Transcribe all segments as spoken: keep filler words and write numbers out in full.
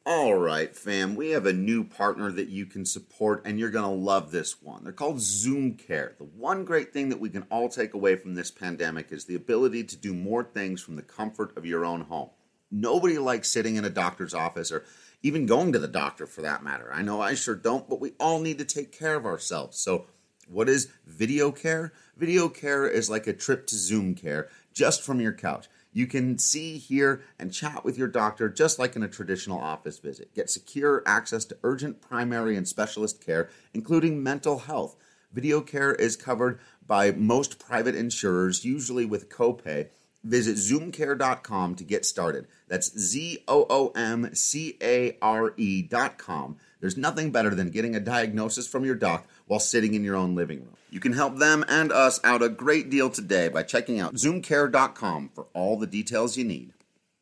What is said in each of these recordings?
All right, fam, we have a new partner that you can support, and you're going to love this one. They're called Zoom Care. The one great thing that we can all take away from this pandemic is the ability to do more things from the comfort of your own home. Nobody likes sitting in a doctor's office or even going to the doctor for that matter. I know I sure don't, but we all need to take care of ourselves. So what is video care? Video care is like a trip to Zoom Care just from your couch. You can see, hear, and chat with your doctor just like in a traditional office visit. Get secure access to urgent primary and specialist care, including mental health. Video care is covered by most private insurers, usually with copay. Visit zoom care dot com to get started. That's Z O O M C A R E dot com. There's nothing better than getting a diagnosis from your doc while sitting in your own living room. You can help them and us out a great deal today by checking out zoom care dot com for all the details you need.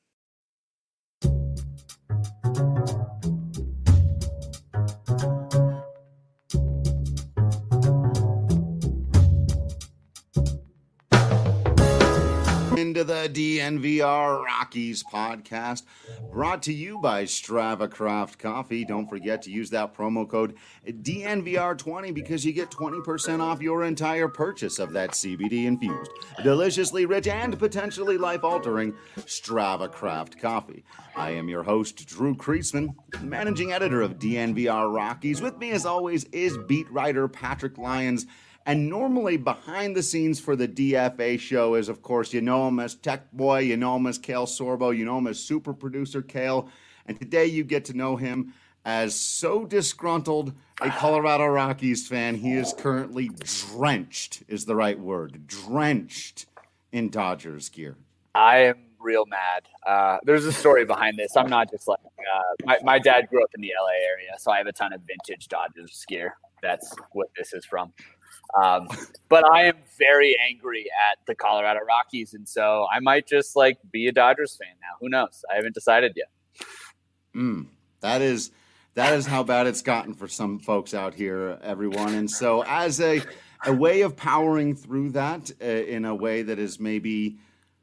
Into the D N V R Rockies podcast, brought to you by Strava Craft Coffee. Don't forget to use that promo code D N V R twenty because you get twenty percent off your entire purchase of that C B D infused, deliciously rich, and potentially life-altering Strava Craft Coffee. I am your host, Drew Kreisman, managing editor of D N V R Rockies. With me, as always, is beat writer Patrick Lyons. And normally behind the scenes for the D F A show is, of course, you know him as Tech Boy, you know him as Kale Sorbo, you know him as super producer Kale. And today you get to know him as so disgruntled a Colorado Rockies fan, he is currently drenched, is the right word, drenched in Dodgers gear. I am real mad. Uh, there's a story behind this. I'm not just like, uh, my, my dad grew up in the L A area, so I have a ton of vintage Dodgers gear. That's what this is from. Um, but I am very angry at the Colorado Rockies, and so I might just like be a Dodgers fan now. Who knows? I haven't decided yet. Mm, that is that is how bad it's gotten for some folks out here, everyone. And so, as a a way of powering through that uh, in a way that is maybe,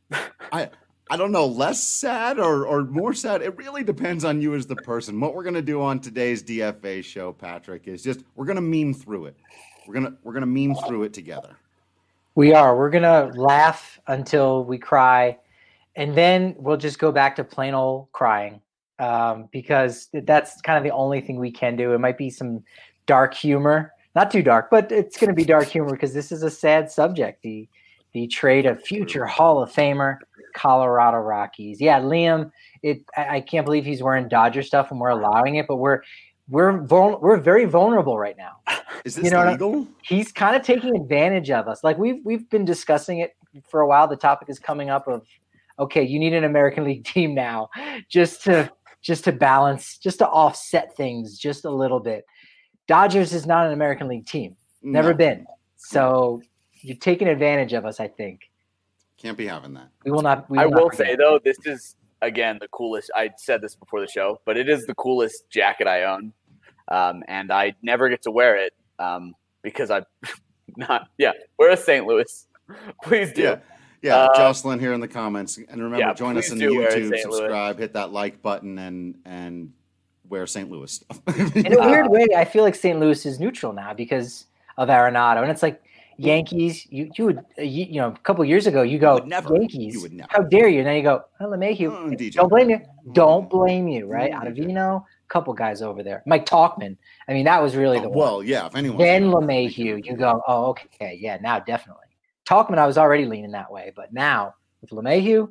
I I don't know, less sad or or more sad. It really depends on you as the person. What we're gonna do on today's D F A show, Patrick, is just we're gonna meme through it. We're gonna we're gonna meme through it together. We are. We're gonna laugh until we cry, and then we'll just go back to plain old crying, um, because that's kind of the only thing we can do. It might be some dark humor, not too dark, but it's going to be dark humor because this is a sad subject. The the trade of future Hall of Famer Colorado Rockies. Yeah, Liam. It. I, I can't believe he's wearing Dodger stuff and we're allowing it, but we're. We're vul- we're very vulnerable right now. Is this you know legal? He's kind of taking advantage of us. Like we've we've been discussing it for a while. The topic is coming up of, okay, you need an American League team now, just to just to balance, just to offset things just a little bit. Dodgers is not an American League team. Never no. been. So you're taking advantage of us, I think. Can't be having that. We will not. We will I will not say though, this is again the coolest. I said this before the show, but it is the coolest jacket I own. Um, and I never get to wear it um, because I'm not. Yeah, we're a Saint Louis. Please do. Yeah, yeah. Uh, Jocelyn here in the comments, and remember, yeah, join us in the YouTube. Subscribe, Louis. Hit that like button, and and wear Saint Louis stuff. In a weird way, I feel like Saint Louis is neutral now because of Arenado, and it's like Yankees. You you would you, you know a couple years ago you go you never, Yankees. You would never. How dare you? And then you go oh, LeMahieu. Oh, Don't blame you. Don't blame you. Right, mm-hmm. Ottavino. Couple guys over there. Mike Talkman. I mean, that was really the oh, one. Well, yeah, if anyone. Then LeMahieu, you go, oh, okay, yeah, now definitely. Talkman, I was already leaning that way, but now with LeMahieu.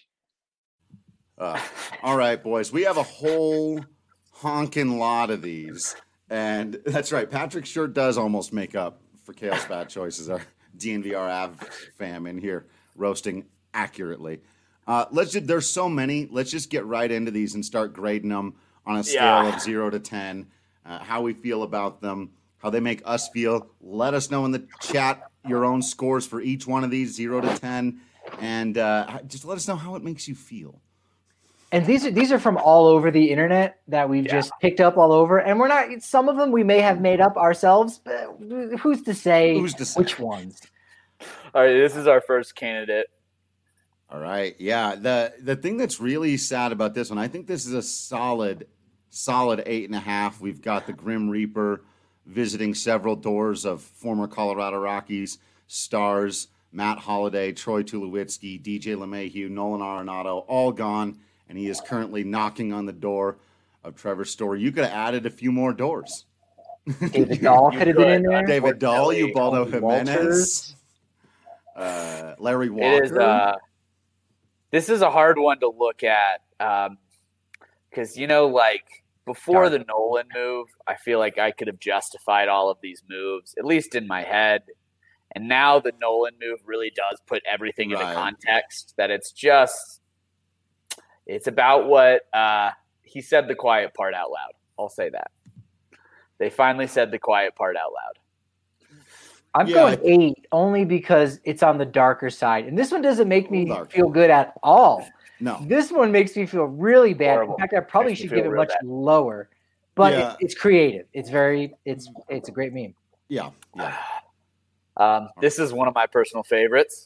Uh, all right, boys, we have a whole honking lot of these, and that's right. Patrick sure does almost make up for Kale's bad choices. Our D N V R Av fam in here roasting accurately. Uh, let's just, there's so many. Let's just get right into these and start grading them on a scale yeah. of zero to ten, uh, how we feel about them, how they make us feel. Let us know in the chat your own scores for each one of these, zero to ten, and uh, just let us know how it makes you feel. And these are these are from all over the internet that we've yeah. just picked up all over, and we're not. Some of them we may have made up ourselves, but who's to say, who's to say? Which ones? All right, this is our first candidate. All right, yeah. The the thing that's really sad about this one, I think this is a solid solid eight and a half. We've got the Grim Reaper visiting several doors of former Colorado Rockies stars, Matt Holliday, Troy Tulowitzki, D J LeMahieu, Nolan Arenado, all gone, and he is currently knocking on the door of Trevor Story. You could have added a few more doors. David Dahl could have been in there. David Dahl, Ubaldo Tony Jimenez, Walters. uh, Larry Walker. It is. Uh, this is a hard one to look at because um, you know, like before the Nolan move, I feel like I could have justified all of these moves, at least in my head. And now the Nolan move really does put everything right. into context. That it's just, it's about what uh, he said the quiet part out loud. I'll say that. They finally said the quiet part out loud. I'm yeah, going eight only because it's on the darker side. And this one doesn't make me dark. feel good at all. No. This one makes me feel really bad. Horrible. In fact, I probably Makes me should give it feel much real bad. lower. But Yeah. it, it's creative. It's very, it's it's a great meme. Yeah, yeah. Um, this is one of my personal favorites.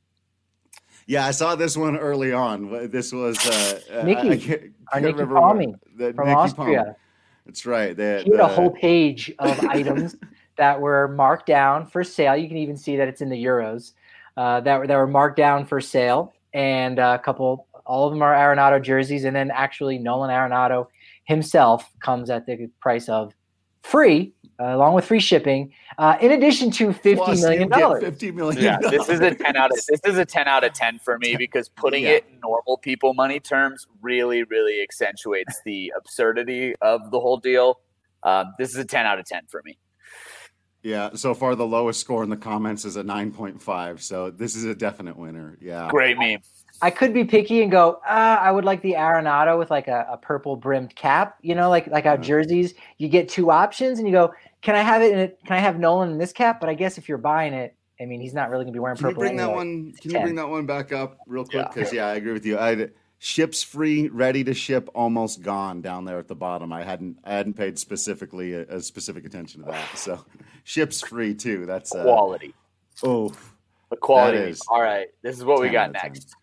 Yeah, I saw this one early on. This was uh, Nikki, I, I can't, our can't Nikki remember Palmy the, from Nikki Austria. Palm. That's right. The, He had the, a whole page of items that were marked down for sale. You can even see that it's in the euros uh, that were that were marked down for sale, and a couple. All of them are Arenado jerseys, and then actually Nolan Arenado himself comes at the price of free, uh, along with free shipping, uh, in addition to fifty Plus million you get dollars. Fifty million. Yeah, this is a ten out of this is a ten out of ten for me because putting Yeah. it in normal people money terms really, really accentuates the absurdity of the whole deal. Um, this is a ten out of ten for me. Yeah. So far, the lowest score in the comments is a nine point five. So this is a definite winner. Yeah. Great meme. I could be picky and go, ah, I would like the Arenado with like a, a purple brimmed cap, you know, like like how Yeah. jerseys, you get two options and you go, can I have it in it? Can I have Nolan in this cap? But I guess if you're buying it, I mean, he's not really going to be wearing Can you purple. bring that anyway. one? Can you ten. bring that one back up real quick? Yeah. Because yeah. I agree with you. I ships free, ready to ship, almost gone down there at the bottom. I hadn't I hadn't paid specifically a, a specific attention to that. So ships free too. That's uh, Quality. oh. The quality. That is All right. This is what we ten got out of ten. next.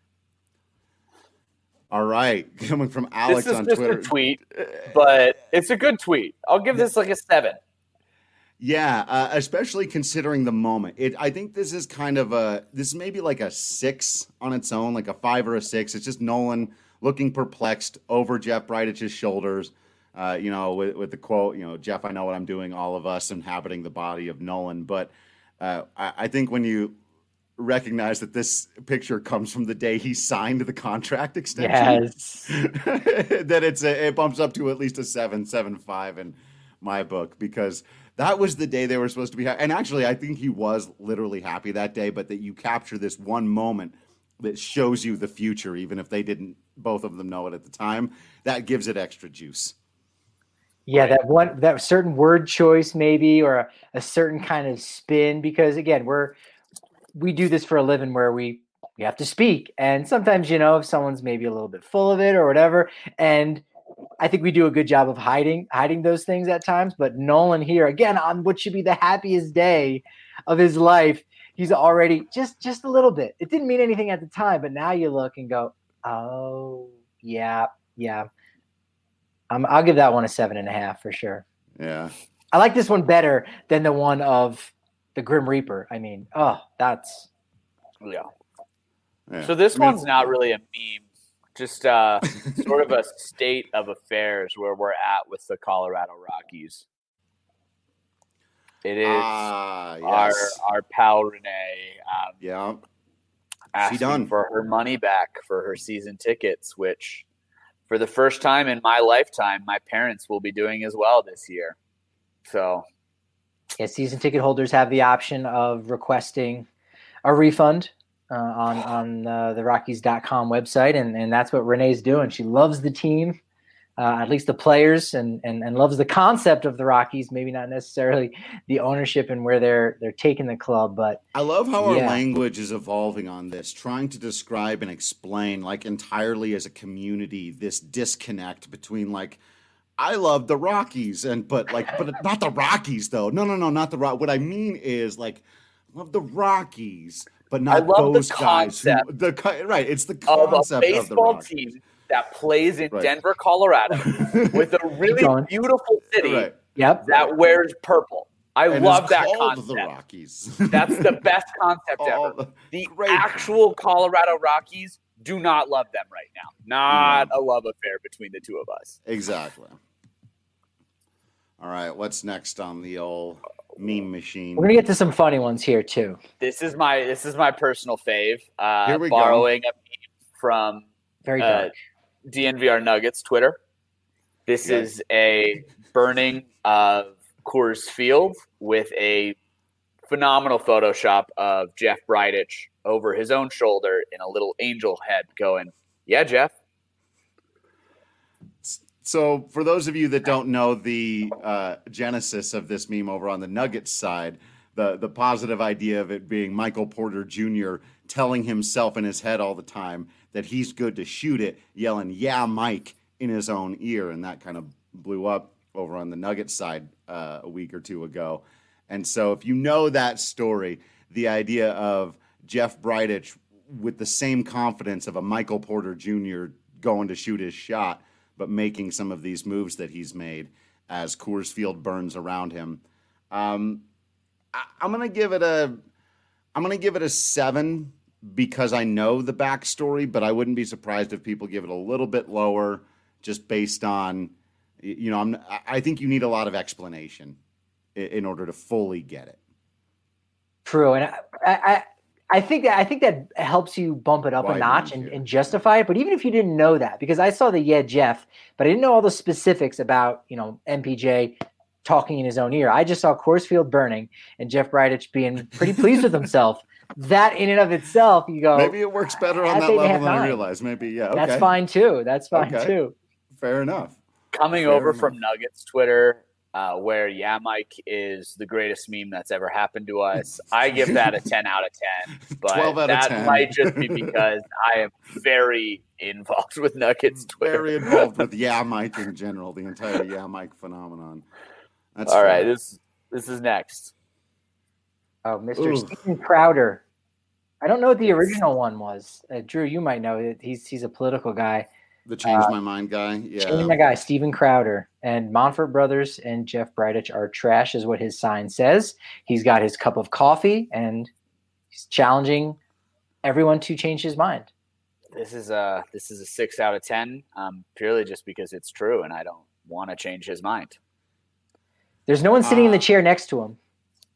All right, coming from Alex This is on just Twitter. a tweet, but it's a good tweet. I'll give this like a seven. Yeah, uh, especially considering the moment. It, I think this is kind of a this is maybe like a six on its own, like a five or a six. It's just Nolan looking perplexed over Jeff Bridic's shoulders. Uh, you know, with, with the quote, you know, Jeff, I know what I'm doing. All of us inhabiting the body of Nolan. But uh, I, I think when you recognize that this picture comes from the day he signed the contract extension, Yes. that it's a, it bumps up to at least a seven, seven five in my book because that was the day they were supposed to be. Ha- and actually, I think he was literally happy that day. But that you capture this one moment that shows you the future, even if they didn't, both of them know it at the time. That gives it extra juice. Yeah, that one, that certain word choice maybe, or a, a certain kind of spin, because again, we're, we do this for a living where we, we have to speak. And sometimes, you know, if someone's maybe a little bit full of it or whatever, and I think we do a good job of hiding, hiding those things at times, but Nolan here again on what should be the happiest day of his life, he's already just, just a little bit. It didn't mean anything at the time, but now you look and go, oh yeah, yeah. Um, I'll give that one a seven and a half for sure. Yeah. I like this one better than the one of the Grim Reaper. I mean, oh, that's Yeah. yeah. So this I mean, one's not really a meme, just uh, sort of a state of affairs where we're at with the Colorado Rockies. It is Ah, our yes. our pal Renee um, Yeah. asking done. for her money back for her season tickets, which for the first time in my lifetime, my parents will be doing as well this year. So yeah, season ticket holders have the option of requesting a refund uh, on on uh, the Rockies dot com website, and, and that's what Renee's doing. She loves the team, uh, at least the players, and, and and loves the concept of the Rockies. Maybe not necessarily the ownership and where they're they're taking the club, but I love how our Yeah. language is evolving on this, trying to describe and explain, like entirely as a community, this disconnect between like, I love the Rockies, and but like, but not the Rockies though. No, no, no, not the Rock. What I mean is like, love the Rockies, but not I love the those guys. Who, concept the co- right, it's the of a concept of, the baseball Rockies. team that plays in Right. Denver, Colorado, with a really beautiful city Right. Yep. that wears purple. I And love it's that called concept. the Rockies. That's the best concept All ever. The great actual Colorado Rockies do not love them right now. Not No. a love affair between the two of us. Exactly. All right, what's next on the old meme machine? We're gonna get to some funny ones here too. This is my this is my personal fave. Uh, Here we borrowing go. a meme from Very uh, dark. D N V R Nuggets Twitter. This Yeah. is a burning of Coors Field with a phenomenal Photoshop of Jeff Bridich over his own shoulder in a little angel head going, yeah, Jeff. So for those of you that don't know the uh, genesis of this meme over on the Nuggets side, the, the positive idea of it being Michael Porter Junior telling himself in his head all the time that he's good to shoot it, yelling, yeah, Mike, in his own ear. And that kind of blew up over on the Nuggets side uh, a week or two ago. And so if you know that story, the idea of Jeff Bridich with the same confidence of a Michael Porter Junior going to shoot his shot, but making some of these moves that he's made as Coors Field burns around him. Um, I, I'm gonna give it a, I'm gonna give it a seven because I know the backstory, but I wouldn't be surprised if people give it a little bit lower, just based on, you know, I'm, I think you need a lot of explanation in, in order to fully get it. True, and I, I, I think that I think that helps you bump it up Why a notch wouldn't and, you? and justify it. But even if you didn't know that, because I saw the yeah Jeff, but I didn't know all the specifics about you know M P J talking in his own ear. I just saw Coors Field burning and Jeff Bridich being pretty pleased with himself. That in and of itself, you go. Maybe it works better on I'd that say they level have than I nine. realized. Maybe, yeah, okay. That's fine too. That's fine Okay. too. Fair enough. Coming Fair over enough. from Nuggets Twitter, uh, where yeah, Mike is the greatest meme that's ever happened to us. I give that a ten out of ten. But twelve out of that ten. might just be because I am very involved with Nuggets Twitter. Very involved with Yeah Mike in general, the entire Yeah Mike phenomenon. That's All fair. right, this this is next. Oh, Mister Ooh. Steven Crowder. I don't know what the original one was. Uh, Drew, you might know it. He's he's a political guy. The change Uh, my mind guy. Yeah. Changing my guy, Steven Crowder. And Monfort Brothers and Jeff Bridich are trash, is what his sign says. He's got his cup of coffee, and he's challenging everyone to change his mind. This is a this is a six out of ten, um, purely just because it's true, and I don't want to change his mind. There's no one sitting in the Uh, chair next to him.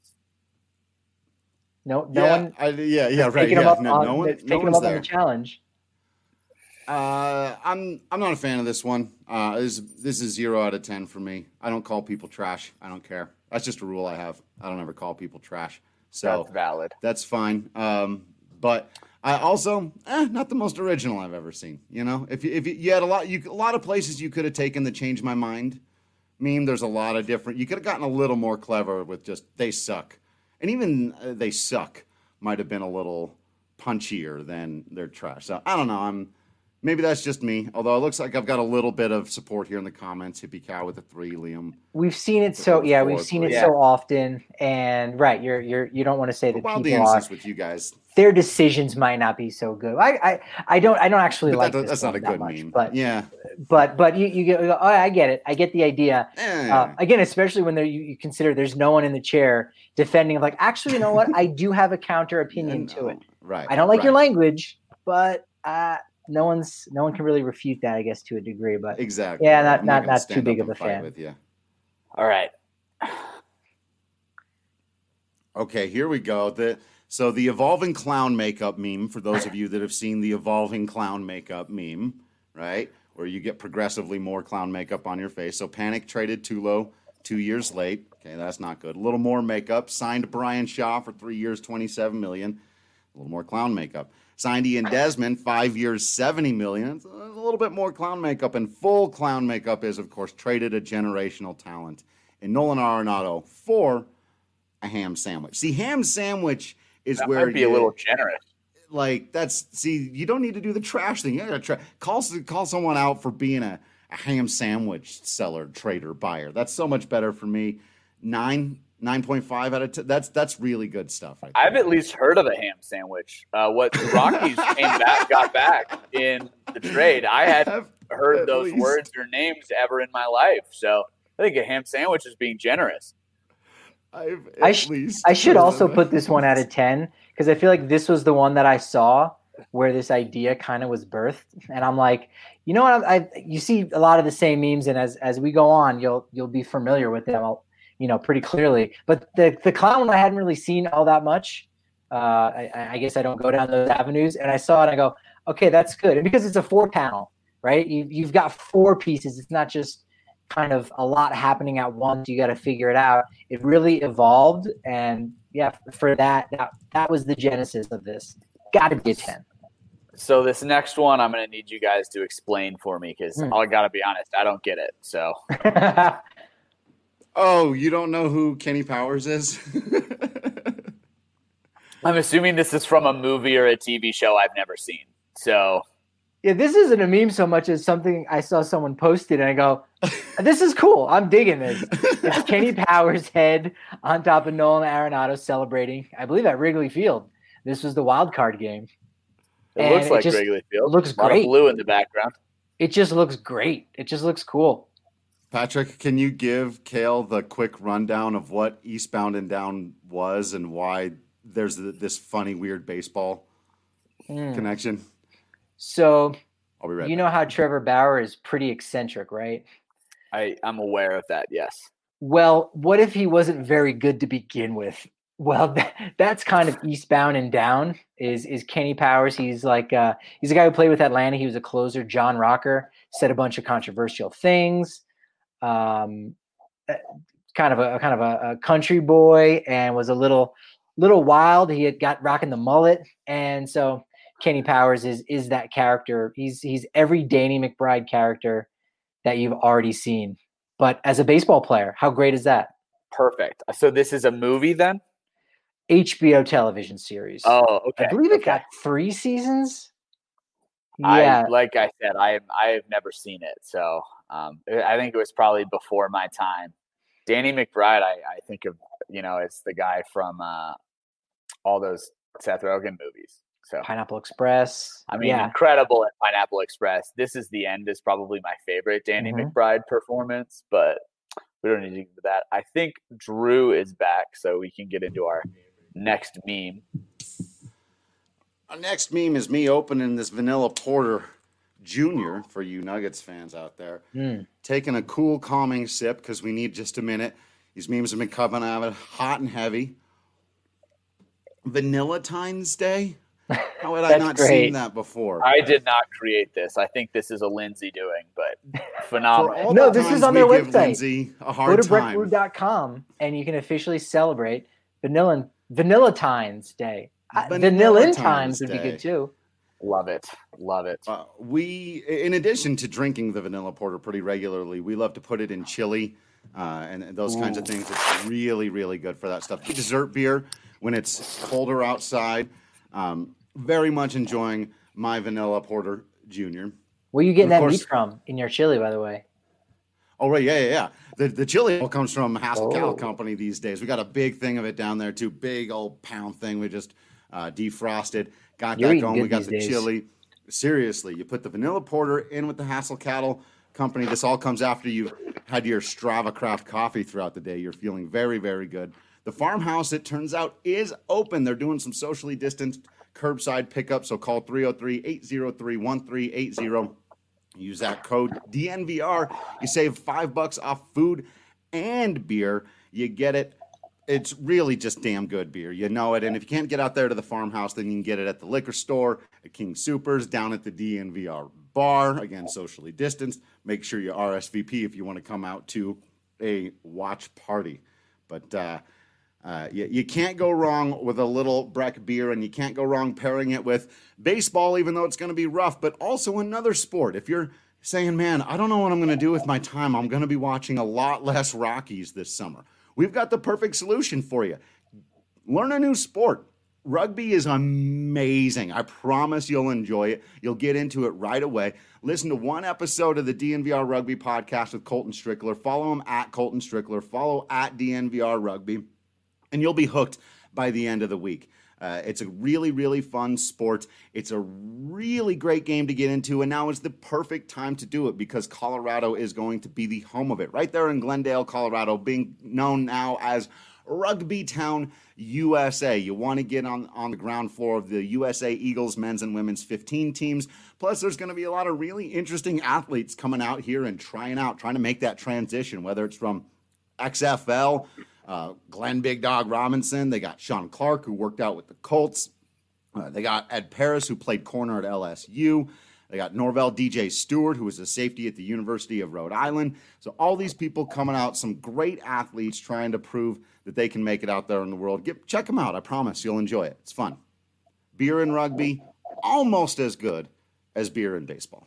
No, no yeah, one I, yeah, yeah, right. taking him Yeah. up No, on, no one, that's no taking him one's up on there. the challenge. Uh, I'm I'm not a fan of this one. Uh, this this is zero out of ten for me. I don't call people trash. I don't care. That's just a rule I have. I don't ever call people trash. So That's valid. that's fine. Um, but I also eh, not the most original I've ever seen. You know, if you, if you, you had a lot, you a lot of places you could have taken the change my mind meme. There's a lot of different. You could have gotten a little more clever with just they suck, and even uh, they suck might have been a little punchier than they're trash. So I don't know. I'm. Maybe that's just me, although it looks like I've got a little bit of support here in the comments. Hippie Cow with a three, Liam. We've seen it so yeah, we've Four, seen it three. so often, and right, you're you're you don't want to say that Wild the people are innocence with you guys. their decisions might not be so good. I I, I don't I don't actually But like that, this that's not a one that good much, meme. but yeah. but but you you get oh, I get it. I get the idea. Eh. Uh, again, especially when there you, you consider there's no one in the chair defending. Like, actually, you know what? I do have a counter opinion No, to it. Right. I don't like right. your language, but uh, no one's no one can really refute that, I guess, to a degree. But Exactly. Yeah, not- I'm not- gonna not too stand big up of and a fight fan. With you. All right. Okay, here we go. The so the evolving clown makeup meme. For those of you that have seen the evolving clown makeup meme, right, where you get progressively more clown makeup on your face. So Panic traded Tulo two years late. Okay, that's not good. A little more makeup. Signed Brian Shaw for three years, twenty-seven million. A little more clown makeup. Signed Ian Desmond, five years, seventy million. It's a little bit more clown makeup, and full clown makeup is, of course, traded a generational talent in Nolan Arenado for a ham sandwich. See, ham sandwich is That where might be you, a little generous. like that's see, you don't need to do the trash thing. You gotta try call call someone out for being a, a ham sandwich seller, trader, buyer. That's so much better for me. Nine nine point five out of ten. That's that's really good stuff. Right I've at least heard of a ham sandwich. Uh, what the Rockies came back, got back in the trade. I hadn't heard those least. words or names ever in my life. So I think a ham sandwich is being generous. I've I, sh- I should also put this one out of ten because I feel like this was the one that I saw where this idea kind of was birthed, and I'm like, you know what? I, I you see a lot of the same memes, and as as we go on, you'll you'll be familiar with them, you know, pretty clearly. But the the clown one I hadn't really seen all that much. Uh, I, I guess I don't go down those avenues, and I saw it. And I go, okay, that's good, and because it's a four panel, right? You you've got four pieces. It's not just kind of a lot happening at once. You got to figure it out. It really evolved, and yeah, for that that that was the genesis of this. Got to be a ten. So this next one, I'm going to need you guys to explain for me because Hmm. I got to be honest, I don't get it. So Oh, you don't know who Kenny Powers is? I'm assuming this is from a movie or a T V show I've never seen. So Yeah, this isn't a meme so much as something I saw someone posted, and I go, "This is cool. I'm digging this." It's Kenny Powers' head on top of Nolan Arenado celebrating, I believe, at Wrigley Field. This was the wild card game. it And looks it like just Wrigley Field. looks a lot great. of blue in the background. It just looks great. It just looks cool. Patrick, can you give Kale the quick rundown of what Eastbound and Down was and why there's th- this funny, weird baseball Mm. connection? So I'll be right you back. know how Trevor Bauer is pretty eccentric, right? I, I'm aware of that, yes. Well, what if he wasn't very good to begin with? Well, that, that's kind of Eastbound and Down. Is is Kenny Powers? He's like uh, he's a guy who played with Atlanta. He was a closer. John Rocker said a bunch of controversial things. Um, uh, kind of a kind of a, a country boy, and was a little little wild. He had got rocking the mullet, and so Kenny Powers is is that character. He's he's every Danny McBride character that you've already seen, but as a baseball player. How great is that? Perfect. So this is a movie then? H B O television series. Oh, okay. I believe it okay. got three seasons. I Yeah, like I said, I I have never seen it, so um, I think it was probably before my time. Danny McBride, I, I think of you know, it's the guy from uh, all those Seth Rogen movies. So Pineapple Express. I mean, yeah, incredible at Pineapple Express. This Is the End is probably my favorite Danny Mhm. McBride performance, but we don't need to get into that. I think Drew is back, so we can get into our next meme. Our next meme is me opening this Vanilla Porter Junior for you Nuggets fans out there. Mm. Taking a cool, calming sip because we need just a minute. These memes have been coming out hot and heavy. Vanilla Tines Day? How had I That's not great. seen that before? I did not create this. I think this is a Lindsay doing, but For phenomenal. all No, the this is times on their we give website. Lindsay a Go hard to breck time. brew dot com and you can officially celebrate Vanilla Vanillatine's Day. Uh, Vanillatine's Vanillatine's would be Day. good too. Love it. Love it. Uh, we, in addition to drinking the vanilla porter pretty regularly, we love to put it in chili uh, and, and those kinds of things. It's really, really good for that stuff. Dessert beer when it's colder outside. Um, very much enjoying my vanilla porter junior. Where are you getting Of that course- meat from in your chili, by the way? Oh, right. Yeah, yeah, yeah. The, the chili all comes from Hassel Cattle Oh. Company these days. We got a big thing of it down there, too. Big old pound thing. We just uh, defrosted. Got You're that eating going. good We got these the days. chili. Seriously, you put the vanilla porter in with the Hassel Cattle Company. This all comes after you've had your Strava Craft coffee throughout the day. You're feeling very, very good. The farmhouse, it turns out, is open. They're doing some socially distanced curbside pickup. So call three oh three, eight oh three, one three eight zero. Use that code D N V R. You save five bucks off food and beer. You get it. It's really just damn good beer. You know it. And if you can't get out there to the farmhouse, then you can get it at the liquor store, at King Supers, down at the D N V R bar. Again, socially distanced. Make sure you R S V P if you want to come out to a watch party. But uh, uh, you, you can't go wrong with a little Breck beer, and you can't go wrong pairing it with baseball, even though it's going to be rough, but also another sport. If you're saying, man, I don't know what I'm going to do with my time, I'm going to be watching a lot less Rockies this summer. We've got the perfect solution for you. Learn a new sport. Rugby is amazing. I promise you'll enjoy it. You'll get into it right away. Listen to one episode of the D N V R Rugby podcast with Colton Strickler. Follow him at Colton Strickler. Follow at D N V R Rugby. And you'll be hooked by the end of the week. Uh, it's a really, really fun sport. It's a really great game to get into, and now is the perfect time to do it because Colorado is going to be the home of it. Right there in Glendale, Colorado, being known now as Rugby Town, U S A. You want to get on, on the ground floor of the U S A Eagles men's and women's fifteen teams. Plus, there's going to be a lot of really interesting athletes coming out here and trying out, trying to make that transition, whether it's from X F L, Uh, Glenn Big Dog Robinson. They got Sean Clark, who worked out with the Colts. Uh, they got Ed Paris, who played corner at L S U. They got Norvell D J Stewart, who was a safety at the University of Rhode Island. So all these people coming out, some great athletes trying to prove that they can make it out there in the world. Get, check them out. I promise you'll enjoy it. It's fun. Beer and rugby, almost as good as beer and baseball.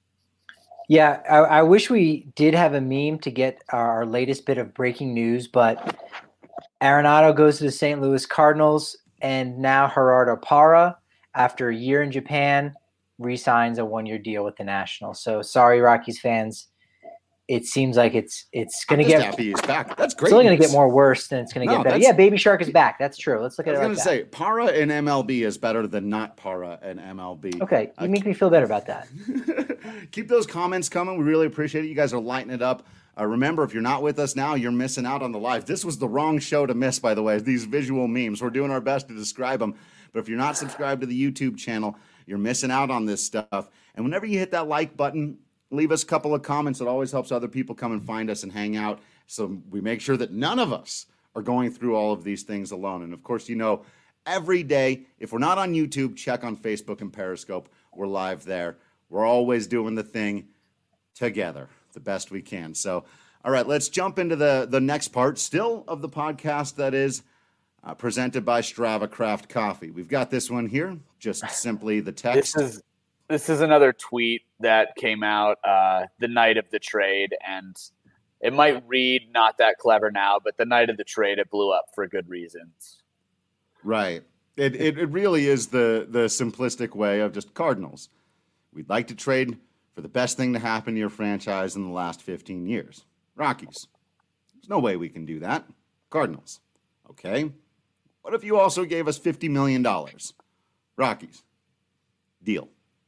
Yeah, I, I wish we did have a meme to get our latest bit of breaking news, but Arenado goes to the Saint Louis Cardinals, and now Gerardo Parra, after a year in Japan, re-signs a one-year deal with the Nationals. So sorry, Rockies fans. It seems like it's it's going to get happy he's back. That's great. It's only going to get more worse than it's going to no, get better. Yeah, Baby Shark is back. That's true. Let's look at it. I was like going to say Parra in M L B is better than not Parra in M L B. Okay, you uh, make me feel better about that. Keep those comments coming. We really appreciate it. You guys are lighting it up. Uh, remember, if you're not with us now, you're missing out on the live. This was the wrong show to miss, by the way. These visual memes. We're doing our best to describe them. But if you're not subscribed to the YouTube channel, you're missing out on this stuff. And whenever you hit that like button, leave us a couple of comments. It always helps other people come and find us and hang out. So we make sure that none of us are going through all of these things alone. And of course, you know, every day, if we're not on YouTube, check on Facebook and Periscope. We're live there. We're always doing the thing together the best we can. So, all right, let's jump into the, the next part, still of the podcast that is uh, presented by Strava Craft Coffee. We've got this one here, just simply the text. This is This is another tweet that came out uh, the night of the trade, and it might read not that clever now, but the night of the trade, it blew up for good reasons. Right. It it, it really is the, the simplistic way of just Cardinals. We'd like to trade for the best thing to happen to your franchise in the last fifteen years. Rockies. There's no way we can do that. Cardinals. Okay. What if you also gave us fifty million dollars? Rockies. Deal.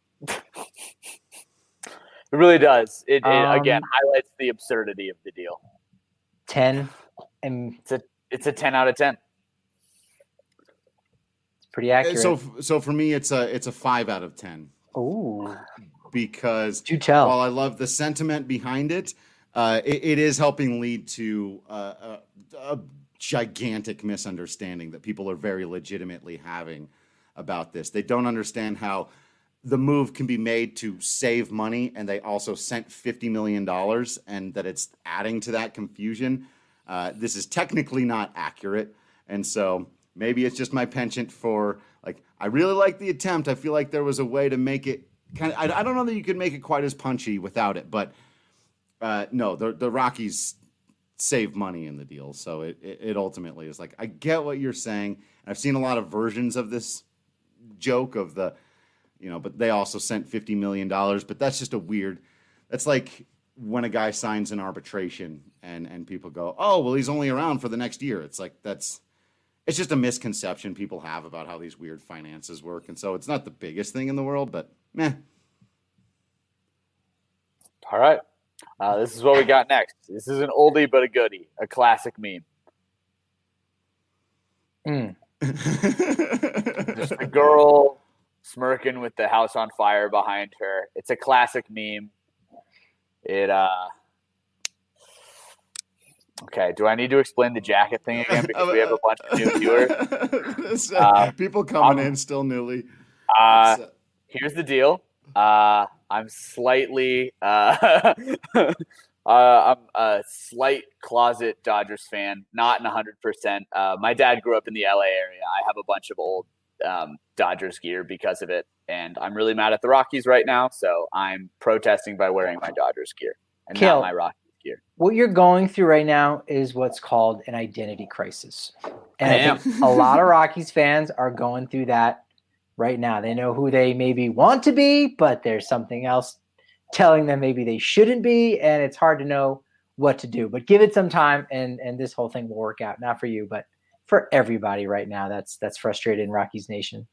It really does. It, it Um, again highlights the absurdity of the deal. ten, and It's a it's a ten out of ten. it's pretty accurate. So so for me, it's a it's a five out of ten. Ooh, Because do tell. while I love the sentiment behind it, uh, it, it is helping lead to uh, a, a gigantic misunderstanding that people are very legitimately having about this. They don't understand how the move can be made to save money, and they also sent fifty million dollars, and that it's adding to that confusion. Uh, this is technically not accurate, and so maybe it's just my penchant for, like, I really like the attempt. I feel like there was a way to make it kind of, I, I don't know that you could make it quite as punchy without it, but uh, no, the, the Rockies save money in the deal, so it, it, it ultimately is like, I get what you're saying. I've seen a lot of versions of this joke of the, you know, but they also sent fifty million dollars, but that's just a weird, that's like when a guy signs an arbitration and, and people go, oh, well, he's only around for the next year. It's like, that's, it's just a misconception people have about how these weird finances work. And so it's not the biggest thing in the world, but meh. All right. Uh, this is what we got next. This is an oldie but a goodie, a classic meme. Mm. Just a girl smirking with the house on fire behind her. It's a classic meme. It uh okay, do I need to explain the jacket thing again because we have a bunch of new viewers? uh, People coming I'm, in still newly. Uh, here's the deal. Uh, I'm slightly uh, uh, I'm a slight closet Dodgers fan, not in one hundred percent. Uh, my dad grew up in the L A area. I have a bunch of old um, Dodgers gear because of it, and I'm really mad at the Rockies right now, so I'm protesting by wearing my Dodgers gear and Kill. not my Rockies gear. What you're going through right now is what's called an identity crisis. And I, I think a lot of Rockies fans are going through that right now. They know who they maybe want to be, but there's something else telling them maybe they shouldn't be, and it's hard to know what to do. But give it some time, and and this whole thing will work out. Not for you, but for everybody right now that's that's frustrated in Rockies Nation.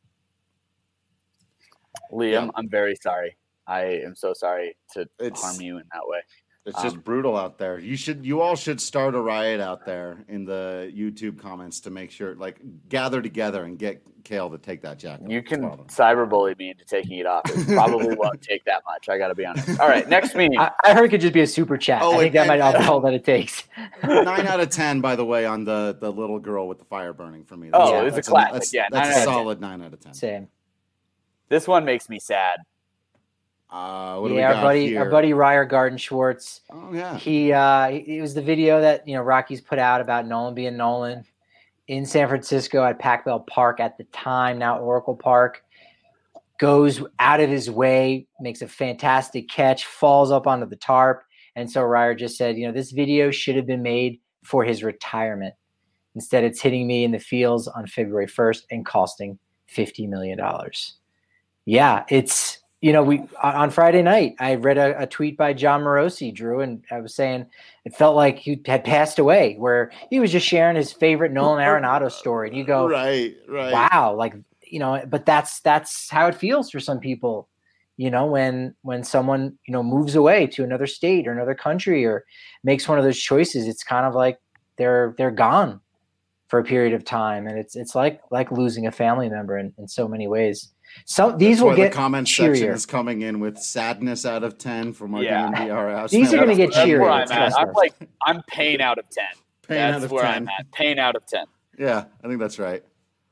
Liam, Yeah. I'm very sorry. I am so sorry to It's- harm you in that way. It's just Um, brutal out there. You should, you all should start a riot out there in the YouTube comments to make sure, like, gather together and get Kale to take that jacket. You off. can Well done. cyberbully me into taking it off. It probably won't take that much. I got to be honest. All right, next meme. I, I heard it could just be a super chat. Oh, I think and- that might and- all all that it takes. Nine out of ten, by the way, on the the little girl with the fire burning for me. Oh, Yeah, it's a that's classic. That's, Yeah, that's nine a out of ten. solid nine out of ten. Same. This one makes me sad. Uh, what do Yeah, we our got buddy, here? our buddy Ryer Garden Schwartz. Oh yeah. He uh, it was the video that you know Rockies put out about Nolan being Nolan in San Francisco at Pac Bell Park at the time, now Oracle Park. Goes out of his way, makes a fantastic catch, falls up onto the tarp, and so Ryer just said, you know, this video should have been made for his retirement. Instead, it's hitting me in the fields on February first and costing fifty million dollars. Yeah, it's. You know, we on Friday night, I read a, a tweet by John Morosi, Drew, and I was saying it felt like he had passed away, where he was just sharing his favorite Nolan Arenado story. And you go, Right, right. wow, like, you know, but that's that's how it feels for some people, you know, when when someone, you know, moves away to another state or another country or makes one of those choices, it's kind of like they're they're gone for a period of time. And it's it's like like losing a family member in, in so many ways. So these That's will why get the comment section cheerier. is coming in with sadness out of ten from our Yeah. D N V R house. These are gonna get That's cheerier, where I'm at. trust I'm us. like, I'm pain out of ten. Pain That's out of where ten. I'm at. Pain out of ten. Yeah, I think that's right.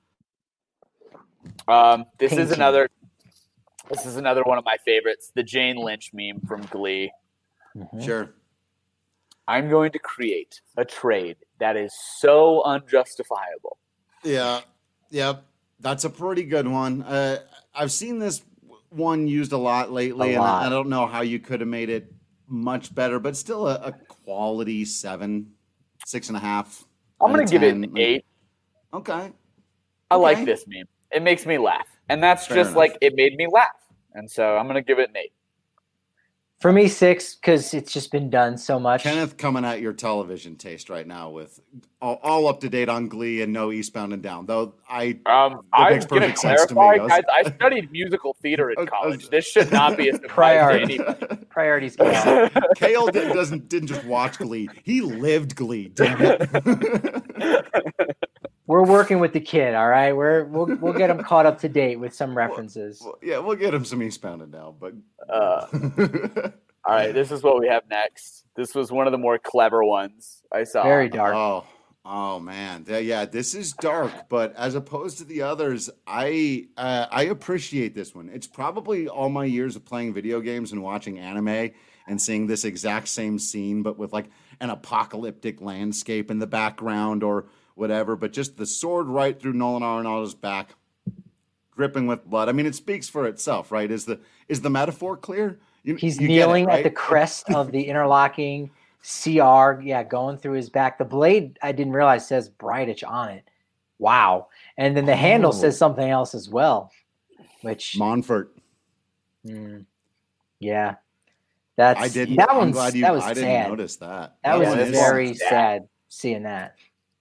Um, this is Painting. another. This is another one of my favorites. The Jane Lynch meme from Glee. Mhm. Sure. I'm going to create a trade that is so unjustifiable. Yeah. Yep. That's a pretty good one. Uh, I've seen this one used a lot lately, A and lot. I, I don't know how you could have made it much better, but still a, a quality seven, six and a half. I'm out going of to give it ten. an eight. Okay. I Okay. like this meme. It makes me laugh, and that's Fair just enough. like it made me laugh, and so I'm going to give it an eight. For me, six, because it's just been done so much. Kenneth coming at your television taste right now with all, all up to date on Glee and no Eastbound and Down. Though I Um, That I'm makes going to perfect sense to me. clarify, I was- guys. I studied musical theater I in was- I was- college. This should not be a surprise to Priority. anybody. Priorities go out. Kale did, doesn't didn't just watch Glee; he lived Glee. Damn it! We're working with the kid, all right? We're we'll we'll get him caught up to date with some references. Well, yeah, we'll get him some Eastbound and Down, but Uh, all right, this is what we have next. This was one of the more clever ones I saw. Very dark. oh, oh man, yeah, yeah, this is dark, but as opposed to the others, I uh, I appreciate this one. It's probably all my years of playing video games and watching anime and seeing this exact same scene, but with like an apocalyptic landscape in the background or whatever. But just the sword right through Nolan Arenado's back, dripping with blood. I mean, it speaks for itself, right? Is the is the metaphor clear? You, He's you get it, kneeling at the right? crest of the interlocking C R, yeah, going through his back. The blade, I didn't realize, says Bridich on it. Wow. And then the handle Oh. says something else as well, which, Montfort. mm, yeah. That's, I didn't. that I'm one's, glad you. that was I didn't sad. notice that. That was one is very sad. sad seeing that.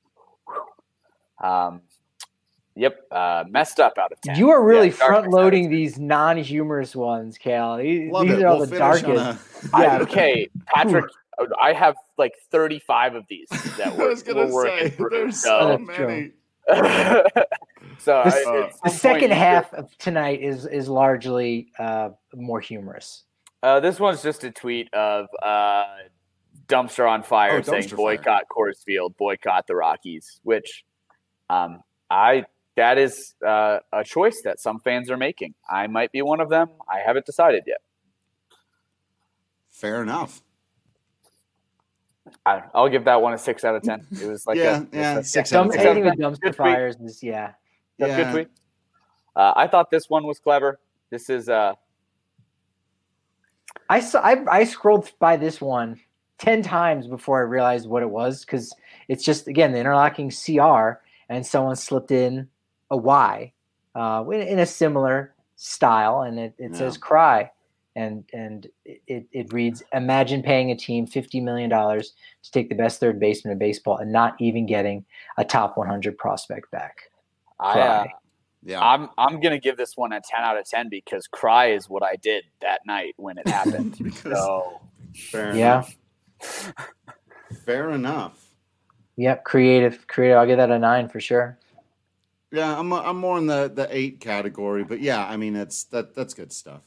Um, yep, uh, messed up out of ten. You are really Yeah, darkness front loading out of these non-humorous ones, Cal. These, Love these it. are all We'll the finish on darkest. a- ten. Yeah. I, okay, Patrick, I have like thirty-five of these that I we're, was gonna we're working say through. there's So, so That's many. so The, I, s- at the some second point you half of tonight is is largely uh, more humorous. Uh, this one's just a tweet of uh, dumpster on fire Oh, saying dumpster fire. boycott Coors Field, boycott the Rockies. Which, um, I that is uh, a choice that some fans are making. I might be one of them. I haven't decided yet. Fair enough. I, I'll give that one a six out of ten. It was like Yeah, a, yeah, a six Some, out of six ten. anything with dumpster Good tweet. fires is yeah. That's a Yeah. good tweet. Uh, I thought this one was clever. This is uh, I saw I, I scrolled by this one ten times before I realized what it was because it's just again the interlocking C R and someone slipped in a Y uh, in, in a similar style, and it, it Yeah. says cry. And and it, it reads, imagine paying a team fifty million dollars to take the best third baseman in baseball and not even getting a top one hundred prospect back. I, uh, Yeah. I'm I'm gonna give this one a ten out of ten because cry is what I did that night when it happened. Because- so Fair Yeah. enough. Fair enough. Yep, creative, creative. I'll give that a nine for sure. Yeah, I'm I'm more in the, the eight category, but yeah, I mean it's that that's good stuff.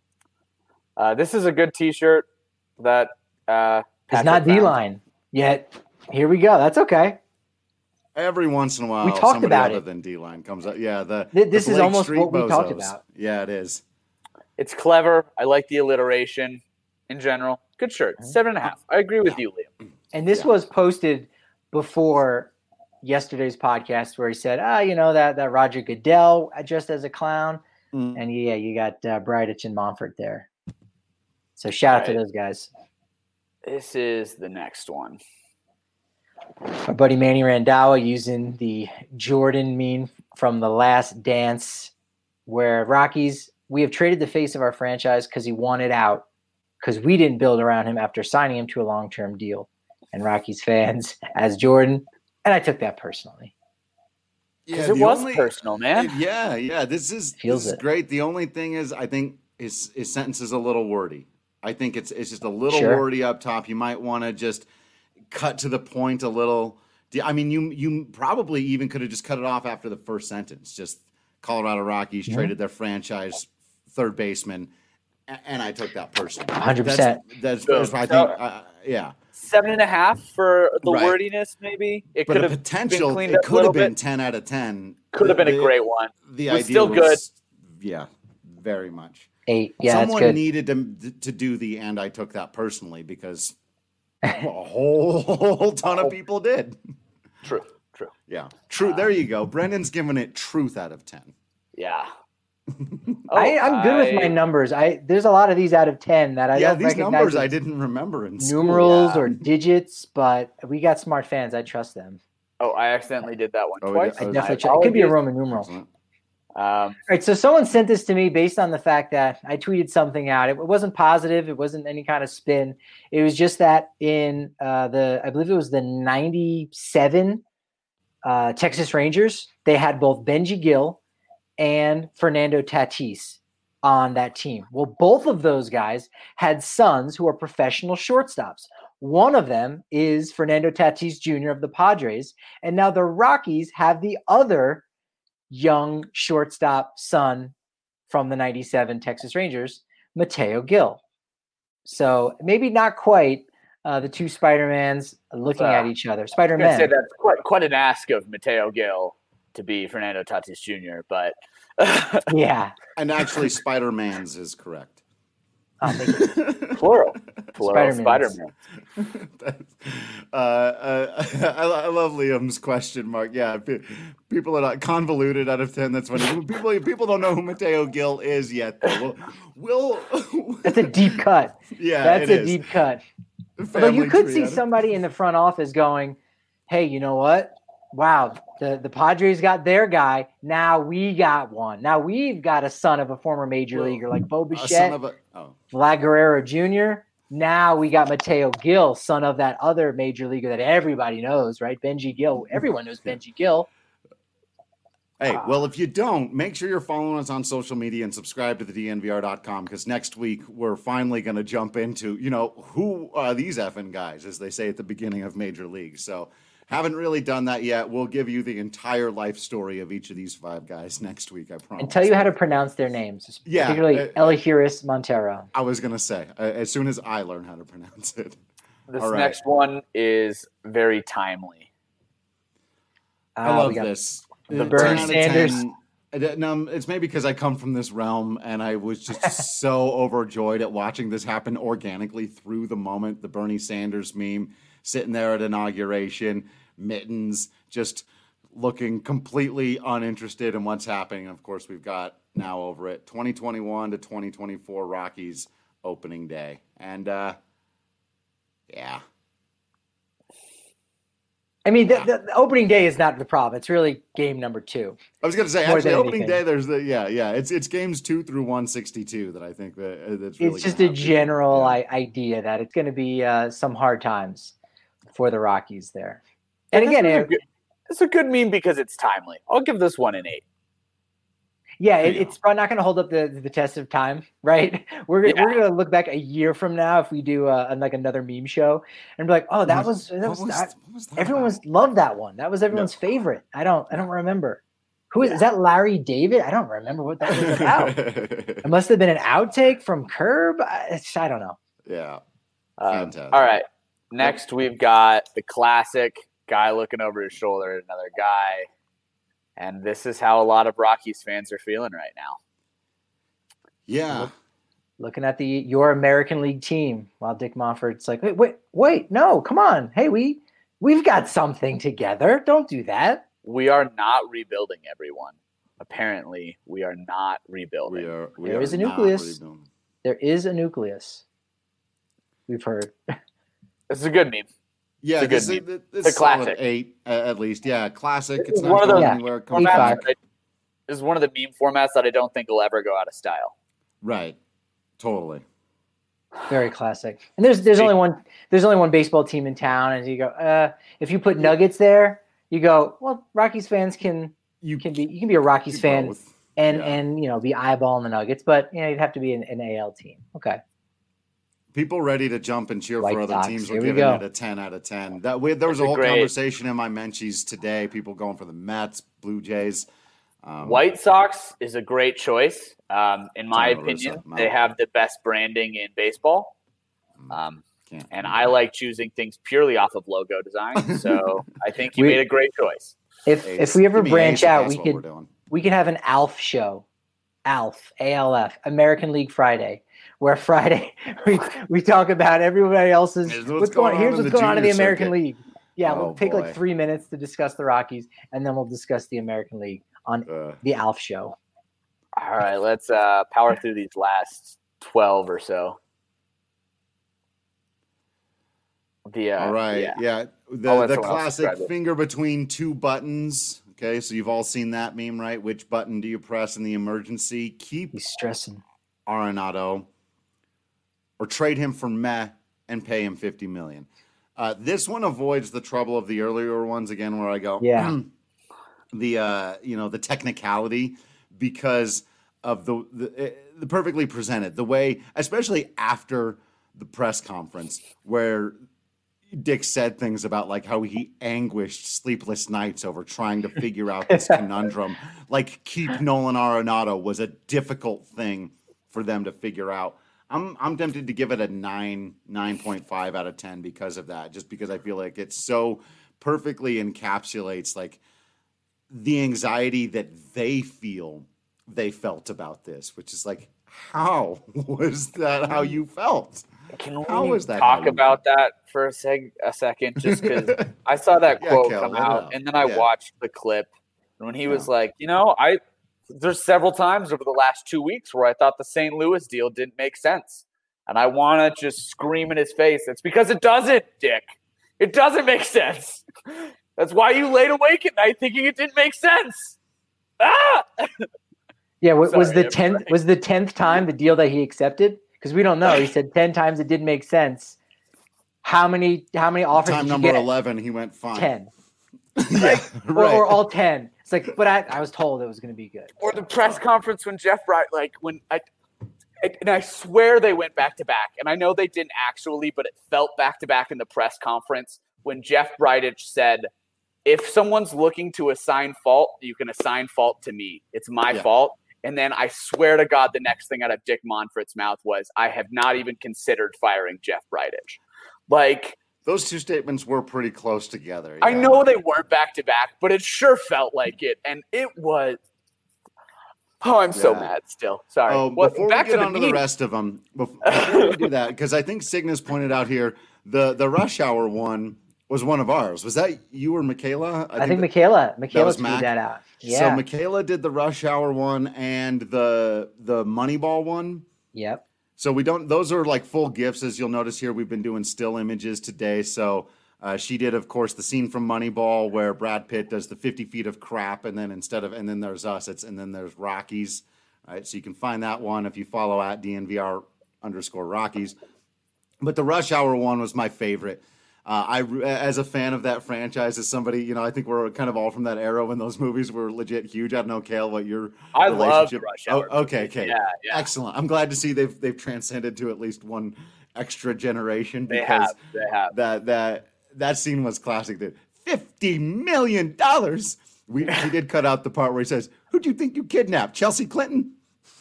uh, this is a good T-shirt that uh, It's Patrick not found. D-line yet. Here we go. That's okay. Every once in a while, We talked somebody about other it. than D-line comes up. Yeah, the Th- this the is Blake almost Street what we talked bozos. about. Yeah, it is. It's clever. I like the alliteration in general. Good shirt. Mm-hmm. Seven and a half. I agree with you, Liam. And this Yeah. was posted before yesterday's podcast where he said, ah, you know, that, that Roger Goodell just as a clown. Mm. And yeah, you got uh, Bridich and Monfort there. So shout out to Right. those guys. This is the next one. My buddy Manny Randhawa using the Jordan meme from The Last Dance, where Rockies, we have traded the face of our franchise because he wanted out, because we didn't build around him after signing him to a long-term deal. And Rockies fans, as Jordan, and I took that personally. Because Yeah, it the was only- personal, man. Yeah, yeah. This is Feels this is it. great. The only thing is, I think his his sentence is a little wordy. I think it's it's just a little Sure. wordy up top. You might want to just cut to the point a little. I mean, you you probably even could have just cut it off after the first sentence. Just Colorado Rockies Yeah. traded their franchise third baseman, a- and I took that personally. one hundred percent. That's, So- that's I so- think. Uh, yeah, Seven and a half for the Right. wordiness, maybe. It but could the have potential been cleaned it up a could little have been bit. ten out of ten. Could have been a The- great one. The Was idea still was, yeah, very much. Eight. Yeah, Someone that's good. needed to to do the and I took that personally because a whole, whole ton of people did. True, true. Yeah, true. There you go. Brendan's giving it truth out of ten. Yeah. I, I'm good with my I- numbers. I There's a lot of these out of ten that I yeah, don't these recognize numbers as I didn't remember in school. numerals Yeah. or digits, but we got smart fans. I trust them. Oh, I accidentally did that one Oh, twice. yeah. I Oh, definitely my trust. It could be a apologies. Roman numeral. Excellent. Um, All right, so someone sent this to me based on the fact that I tweeted something out. It wasn't positive. It wasn't any kind of spin. It was just that in uh, the, I believe it was the ninety-seven uh, Texas Rangers, they had both Benji Gill and Fernando Tatis on that team. Well, both of those guys had sons who are professional shortstops. One of them is Fernando Tatis Junior of the Padres, and now the Rockies have the other young shortstop son from the ninety-seven Texas Rangers, Mateo Gill. So maybe not quite uh, the two Spider-Mans looking Uh, at each other. I'm gonna say Spider-Man. that's quite quite an ask of Mateo Gill to be Fernando Tatis Junior But Yeah. And actually, Spider Man's is correct. Oh, thank you. plural, plural Spider-Mans. Spider-Man. That's- uh, uh, I, I love Liam's question mark. Yeah, pe- people are not convoluted out of ten. That's funny. People people don't know who Mateo Gill is yet. Though. We'll, we'll That's a deep cut. yeah, That's it a is. deep cut. Although Family you could tree see out of- somebody in the front office going, hey, you know what? Wow, the, the Padres got their guy. Now we got one. Now we've got a son of a former major Well, leaguer like Bo a son Bichette, of a oh. Vlad Guerrero Junior Now we got Mateo Gill, son of that other major leaguer that everybody knows, right? Benji Gill. Everyone knows Benji Gill. Hey, Ah. well, if you don't, make sure you're following us on social media and subscribe to the D N V R dot com because next week we're finally going to jump into, you know, who are these effing guys, as they say at the beginning of Major League. So, haven't really done that yet. We'll give you the entire life story of each of these five guys next week, I promise. And tell you how to pronounce their names, Yeah, particularly uh, Elihuris Montero. I was going to say, uh, as soon as I learn how to pronounce it. This All right. next one is very timely. I Uh, love we got this. the Uh, Bernie ten out of Sanders. ten. I don't- Um, it's maybe because I come from this realm and I was just so overjoyed at watching this happen organically through the moment. The Bernie Sanders meme sitting there at inauguration, mittens, just looking completely uninterested in what's happening. Of course, we've got now over it twenty twenty-one to twenty twenty-four Rockies opening day. And uh, yeah. I mean, the, the, the opening day is not the problem. It's really game number two. I was going to say, More actually, than opening anything. day, there's the, yeah, yeah. It's it's games two through one sixty-two that I think that uh, that's really It's just gonna a have people- general yeah. I, idea that it's going to be uh, some hard times for the Rockies there. And again, this is a it, good, it's a good meme because it's timely. I'll give this one an eight. yeah, it, There you it's probably not going to hold up the, the test of time, right? We're gonna Yeah. we're going to look back a year from now if we do uh, like another meme show and be like, oh, that was that What was, was, that, what was that everyone about? was loved that one. That was everyone's favorite. I don't I don't remember. Who is, Yeah. is that? Larry David? I don't remember what that was about. It must have been an outtake from Curb. I, it's, I don't know. yeah. Um, Fantastic. all right. Next, we've got the classic guy looking over his shoulder at another guy. And this is how a lot of Rockies fans are feeling right now. Yeah. Looking at the your American League team while Dick Monfort's like, wait, wait, wait, no, come on. Hey, we we've got something together. Don't do that. We are not rebuilding, everyone. Apparently, we are not rebuilding. We are. We There are is a not nucleus. rebuilding. There is a nucleus. We've heard. This is a good meme. Yeah, It's a this good is meme. this It's a solid classic. eight uh, at least. Yeah, classic. This It's is not one of going those- Yeah. anywhere. Eight Comes five. back. Formats that I- This is one of the meme formats that I don't think will ever go out of style. Right. Totally. Very classic. And there's there's only one there's only one baseball team in town, and you go, uh, if you put Nuggets there, you go, well, Rockies fans can You can be you can be a Rockies do fan both. and Yeah. and you know be eyeballing the Nuggets, but you know you'd have to be an, an A L team. Okay. People ready to jump and cheer White for other Sox, teams were here we giving go. it a ten out of ten. That we, there was That's a a whole great- conversation in my Menchies today. People going for the Mets, Blue Jays. Um, White Sox is a great choice. Um, in my Tom La Russa, opinion, no. they have the best branding in baseball. Mm. Um, can't- and I like choosing things purely off of logo design. So I think you We- made a great choice. If Ace. if we ever Give me branch Ace if out, that's we what could we're doing. we could have an ALF show. ALF, A L F, American League Friday, where Friday we, we talk about everybody else's Here's what's, what's going, going on here's in what's the going on in the junior American circuit. League. Yeah, Oh, we'll take boy. like three minutes to discuss the Rockies, and then we'll discuss the American League on Uh, the ALF show. All right, let's uh, power through these last twelve or so. The, uh, all right. Yeah. Yeah. I'll The let the someone else classic describe it. finger between two buttons. Okay, so you've all seen that meme, right? Which button do you press in the emergency? Keep He's stressing. Arenado or trade him for Meh and pay him fifty million. Uh, this one avoids the trouble of the earlier ones again, where I go, Yeah. the uh, you know the technicality because of the the, uh, the perfectly presented the way, especially after the press conference where Dick said things about like how he anguished sleepless nights over trying to figure out this conundrum. Like keep Nolan Arenado was a difficult thing for them to figure out. I'm I'm tempted to give it a nine, nine point five out of ten because of that. Just because I feel like it so perfectly encapsulates like the anxiety that they feel they felt about this, which is like, how was that how you felt? Can How we is that how talk you about that for a seg a second? Just because I saw that Yeah, quote Kel, come let it out, out. and then I Yeah. watched the clip, and when he was Yeah. like, you know, I there's several times over the last two weeks where I thought the Saint Louis deal didn't make sense, and I want to just scream in his face. It's because it doesn't, Dick. It doesn't make sense. That's why you laid awake at night thinking it didn't make sense. Ah! Yeah, wa- was Sorry, the I'm tenth sorry. was the tenth time the deal that he accepted? Because we don't know. He said ten times it didn't make sense. How many how many offers Time did number you get? eleven, he went fine. Ten. yeah, Or, right. or all ten. It's like, but I, I was told it was going to be good. Or the press conference when Jeff Bright, like when I, and I swear they went back to back, and I know they didn't actually, but it felt back to back in the press conference when Jeff Bridich said, "If someone's looking to assign fault, you can assign fault to me. It's my Yeah. fault." And then I swear to God, the next thing out of Dick Monfort's mouth was, "I have not even considered firing Jeff Bridich." Like, Those two statements were pretty close together. I yeah. know they weren't back to back, but it sure felt like it, and it was. Oh, I'm so Yeah. mad still. Sorry. Oh, What- before back we get to on to meme. the rest of them, before we do that, because I think Cygnus pointed out here the the rush hour one was one of ours. Was that you or Michaela? I, think, that- Michaela Michaela was tweeted Mac? that out. So Yeah. Michaela did the rush hour one and the the Moneyball one. Yep. So we don't; those are like full gifs, as you'll notice here. We've been doing still images today, so Uh, she did, of course, the scene from Moneyball where Brad Pitt does the fifty feet of crap, and then instead of and then there's us, it's and then there's Rockies. All right, so you can find that one if you follow at D N V R underscore Rockies. But the Rush Hour one was my favorite. Uh, I, as a fan of that franchise, as somebody, you know, I think we're kind of all from that era when those movies were legit huge. I don't know, Kale, what your I relationship. love Rush Hour. Oh, okay, okay, yeah, yeah, excellent. I'm glad to see they've they've transcended to at least one extra generation. They because have. They have. That that that scene was classic. That fifty million dollars. We we did cut out the part where he says, "Who do you think you kidnapped, Chelsea Clinton?"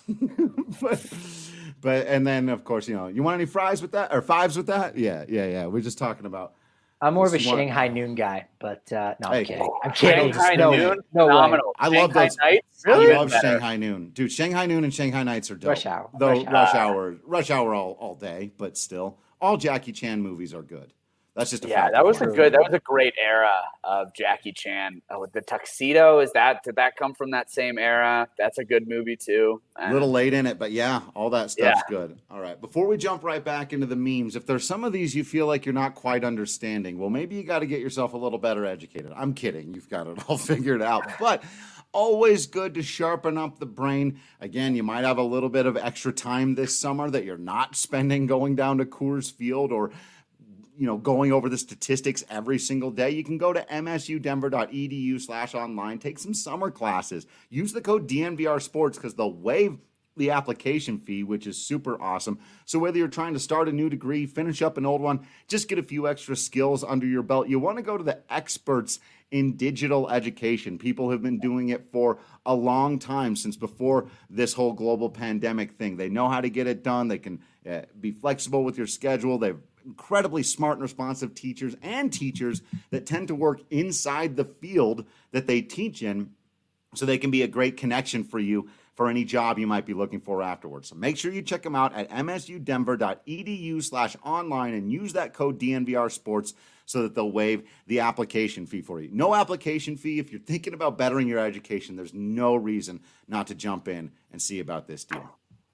but. But and then of course, you know, you want any fries with that or fives with that? Yeah, yeah, yeah. We're just talking about. I'm more of a This one- Shanghai Noon guy, but uh, no, I'm Hey, kidding. I'm kidding. Shanghai no, Noon, no way. phenomenal. I love Shanghai those- Nights, I even love better. Shanghai Noon, dude. Shanghai Noon and Shanghai Nights are dope. Rush Hour. Though Rush Rush, Hour. Hour, Rush Hour all, all day, but still, all Jackie Chan movies are good. That's just a Yeah, fact that of was a life. good. That was a great era of Jackie Chan. Oh, with the tuxedo, is that did that come from that same era? That's a good movie too. A little late in it, but yeah, all that stuff's Yeah. good. All right. Before we jump right back into the memes, if there's some of these you feel like you're not quite understanding, well, maybe you got to get yourself a little better educated. I'm kidding. You've got it all figured out. But always good to sharpen up the brain. Again, you might have a little bit of extra time this summer that you're not spending going down to Coors Field or you know, going over the statistics every single day. You can go to msudenver.edu slash online, take some summer classes, use the code D N V R Sports because they'll waive the application fee, which is super awesome. So whether you're trying to start a new degree, finish up an old one, just get a few extra skills under your belt, you want to go to the experts in digital education. People have been doing it for a long time, since before this whole global pandemic thing. They know how to get it done. They can uh, be flexible with your schedule. They've incredibly smart and responsive teachers and teachers that tend to work inside the field that they teach in, so they can be a great connection for you for any job you might be looking for afterwards. So make sure you check them out at msudenver.edu slash online and use that code D N V R Sports so that they'll waive the application fee for you. No application fee. If you're thinking about bettering your education, there's no reason not to jump in and see about this deal.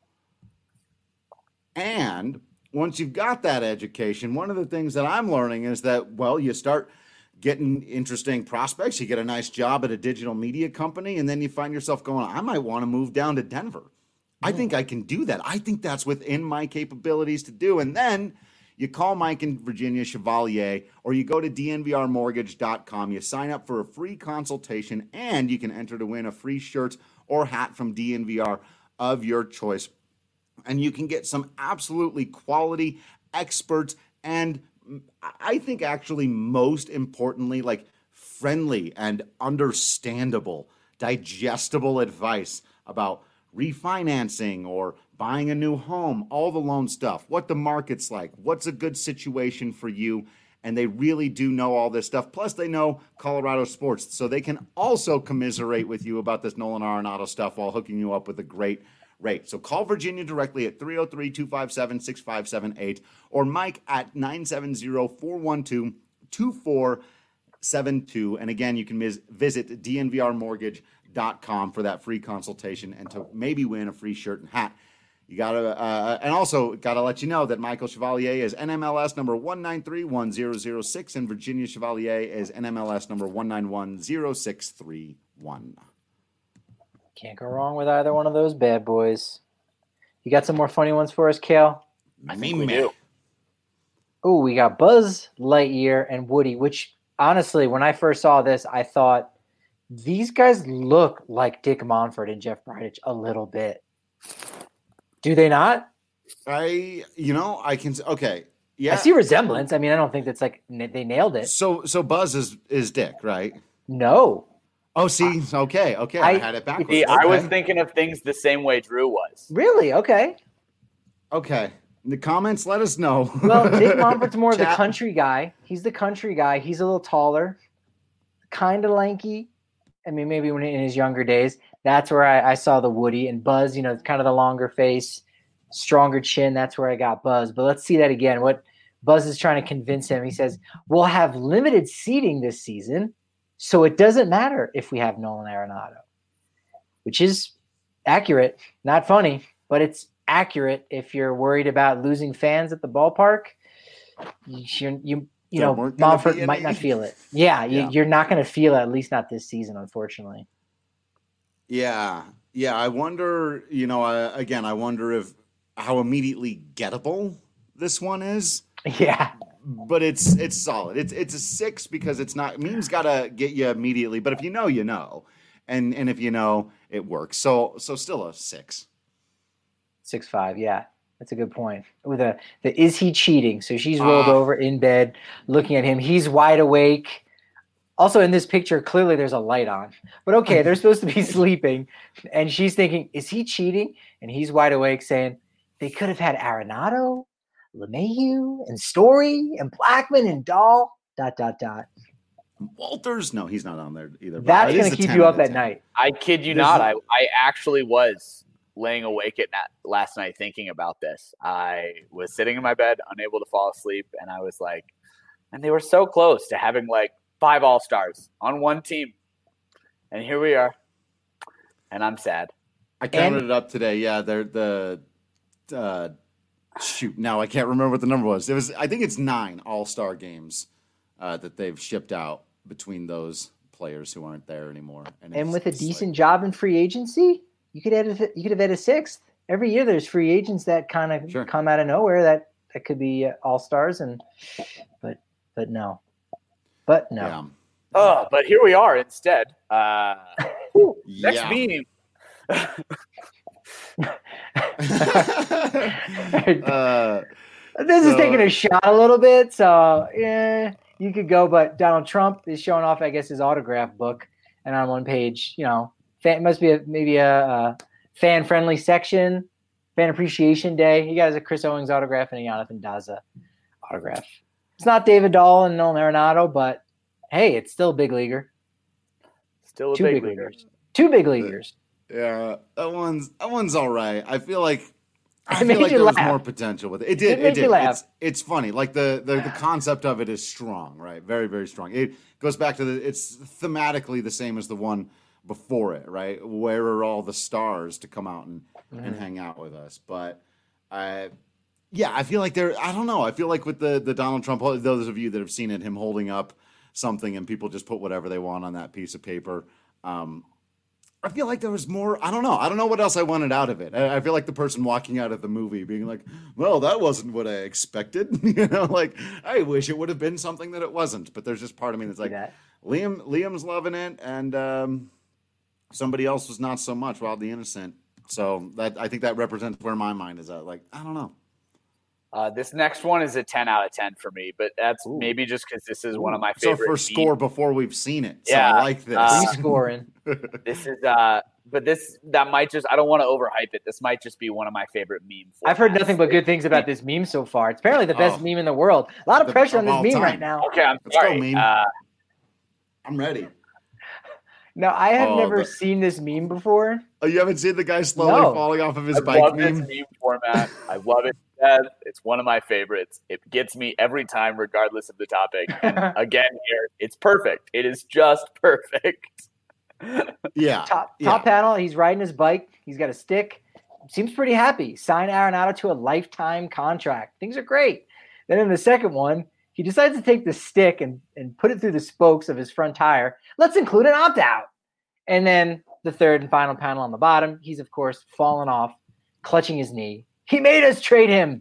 And once you've got that education, one of the things that I'm learning is that, well, you start getting interesting prospects. You get a nice job at a digital media company, and then you find yourself going, I might want to move down to Denver. I think I can do that. I think that's within my capabilities to do. And then you call Mike and Virginia Chevalier, or you go to D N V R mortgage dot com. You sign up for a free consultation, and you can enter to win a free shirt or hat from D N V R of your choice. And you can get some absolutely quality experts and I think actually most importantly, like friendly and understandable, digestible advice about refinancing or buying a new home, all the loan stuff, what the market's like, what's a good situation for you. And they really do know all this stuff. Plus, they know Colorado sports, so they can also commiserate with you about this Nolan Arenado stuff while hooking you up with a great rate. So call Virginia directly at three oh three, two five seven, six five seven eight or Mike at nine seven zero, four one two, two four seven two. And again, you can mis- visit D N V R mortgage dot com for that free consultation and to maybe win a free shirt and hat. You gotta, uh, and also gotta let you know that Michael Chevalier is N M L S number one nine three one zero zero six and Virginia Chevalier is N M L S number one nine one zero six three one. Can't go wrong with either one of those bad boys. You got some more funny ones for us, Kale? I think we do. Oh, we got Buzz Lightyear and Woody, which honestly, when I first saw this, I thought these guys look like Dick Monfort and Jeff Bridich a little bit. Do they not? I, you know, I can, okay. Yeah. I see resemblance. I mean, I don't think that's like they nailed it. So, so Buzz is, is Dick, right? No. Oh, see, okay, okay. I, I- had it backwards. See, I was Okay. thinking of things the same way Drew was. Really? Okay. Okay. In the comments, let us know. Well, Dick Monfort's more of the Chat. country guy. He's the country guy. He's a little taller, kind of lanky. I mean, maybe when in his younger days. That's where I, I saw the Woody and Buzz. You know, kind of the longer face, stronger chin. That's where I got Buzz. But let's see that again. What Buzz is trying to convince him. He says, "We'll have limited seating this season, so it doesn't matter if we have Nolan Arenado," which is accurate. Not funny, but it's accurate. If you're worried about losing fans at the ballpark, you, you you There know, weren't gonna Monfort be might any? not feel it. Yeah, you, Yeah. you're not going to feel it, at least not this season, unfortunately. Yeah, yeah. I wonder. You know, uh, again, I wonder if how immediately gettable this one is. Yeah. But it's it's solid. It's it's a six because it's not memes gotta get you immediately. But if you know, you know, and and if you know, it works. So so still a six. Six five, yeah. That's a good point. With a the is he cheating? So she's rolled Ah. over in bed, looking at him. He's wide awake. Also, in this picture, clearly there's a light on. But okay, they're supposed to be sleeping, and she's thinking, "Is he cheating?" And he's wide awake, saying, "They could have had Arenado, LeMahieu, and Story, and Blackman, and Dahl." Dot dot dot. Walters, no, he's not on there either. but That's it is going to a keep ten you out up of at ten. night. I kid you There's not. a- I, I actually was laying awake at night, last night thinking about this. I was sitting in my bed, unable to fall asleep, and I was like, and they were so close to having like five All-Stars on one team. And here we are. And I'm sad. I counted it up today. Yeah, they're the uh, shoot. Now I can't remember what the number was. It was. I think it's nine All Star games uh, that they've shipped out between those players who aren't there anymore. And it's- with a it's decent like- job in free agency, you could add a, you could have had a sixth. Every year there's free agents that kind of Sure. come out of nowhere that, that could be uh, all-stars and but but no. But no. Yeah. Oh, but here we are instead. Uh, next Yeah. meme. uh, This is So- taking a shot a little bit, so yeah, you could go. But Donald Trump is showing off, I guess, his autograph book, and on one page, you know, fan, must be a, maybe a, a fan-friendly section, fan appreciation day. He got a Chris Owings autograph and a Jonathan Daza autograph. It's not David Dahl and Nolan Arenado, but hey, it's still a big leaguer. Still a Two big big leaguer. leaguers. Two big leaguers. yeah, that one's that one's all right. I feel like I It made feel like you there was laugh. more potential with it. It did. It made It, did. you laugh. It's it's funny. Like the, the the concept of it is strong, right? Very very strong. It goes back to the. It's thematically the same as the one before it, right? Where are all the stars to come out and and Mm-hmm. hang out with us? But I. Yeah, I feel like there. I don't know. I feel like with the the Donald Trump, those of you that have seen it, him holding up something and people just put whatever they want on that piece of paper. Um, I feel like there was more. I don't know. I don't know what else I wanted out of it. I, I feel like the person walking out of the movie being like, "Well, that wasn't what I expected." You know, like I wish it would have been something that it wasn't. But there's just part of me that's like, that. Liam, Liam's loving it, and um, somebody else was not so much. Wildly Innocent. So that I think that represents where my mind is at. Like I don't know. Uh, this next one is a ten out of ten for me, but that's Ooh. maybe just because this is one of my It's our favorite. first memes. score before we've seen it. So Yeah, I like this. uh, He's scoring. This is, uh, but this that might just. I don't want to overhype it. This might just be one of my favorite meme. I've heard formats. nothing but good things about this meme so far. It's apparently the best Oh. meme in the world. A lot of The- pressure on of this all meme time. right now. Okay, I'm Let's go, sorry. meme. Uh, I'm ready. No, I have Oh, never the- seen this meme before. Oh, you haven't seen the guy slowly No. falling off of his I bike love meme? this meme format. I love it. Yes, it's one of my favorites. It gets me every time, regardless of the topic. And again, here it's perfect. It is just perfect. Yeah. Top yeah. top panel, he's riding his bike. He's got a stick. Seems pretty happy. Sign Arenado to a lifetime contract. Things are great. Then in the second one, he decides to take the stick and, and put it through the spokes of his front tire. Let's include an opt-out. And then the third and final panel on the bottom, he's, of course, fallen off, clutching his knee. He made us trade him.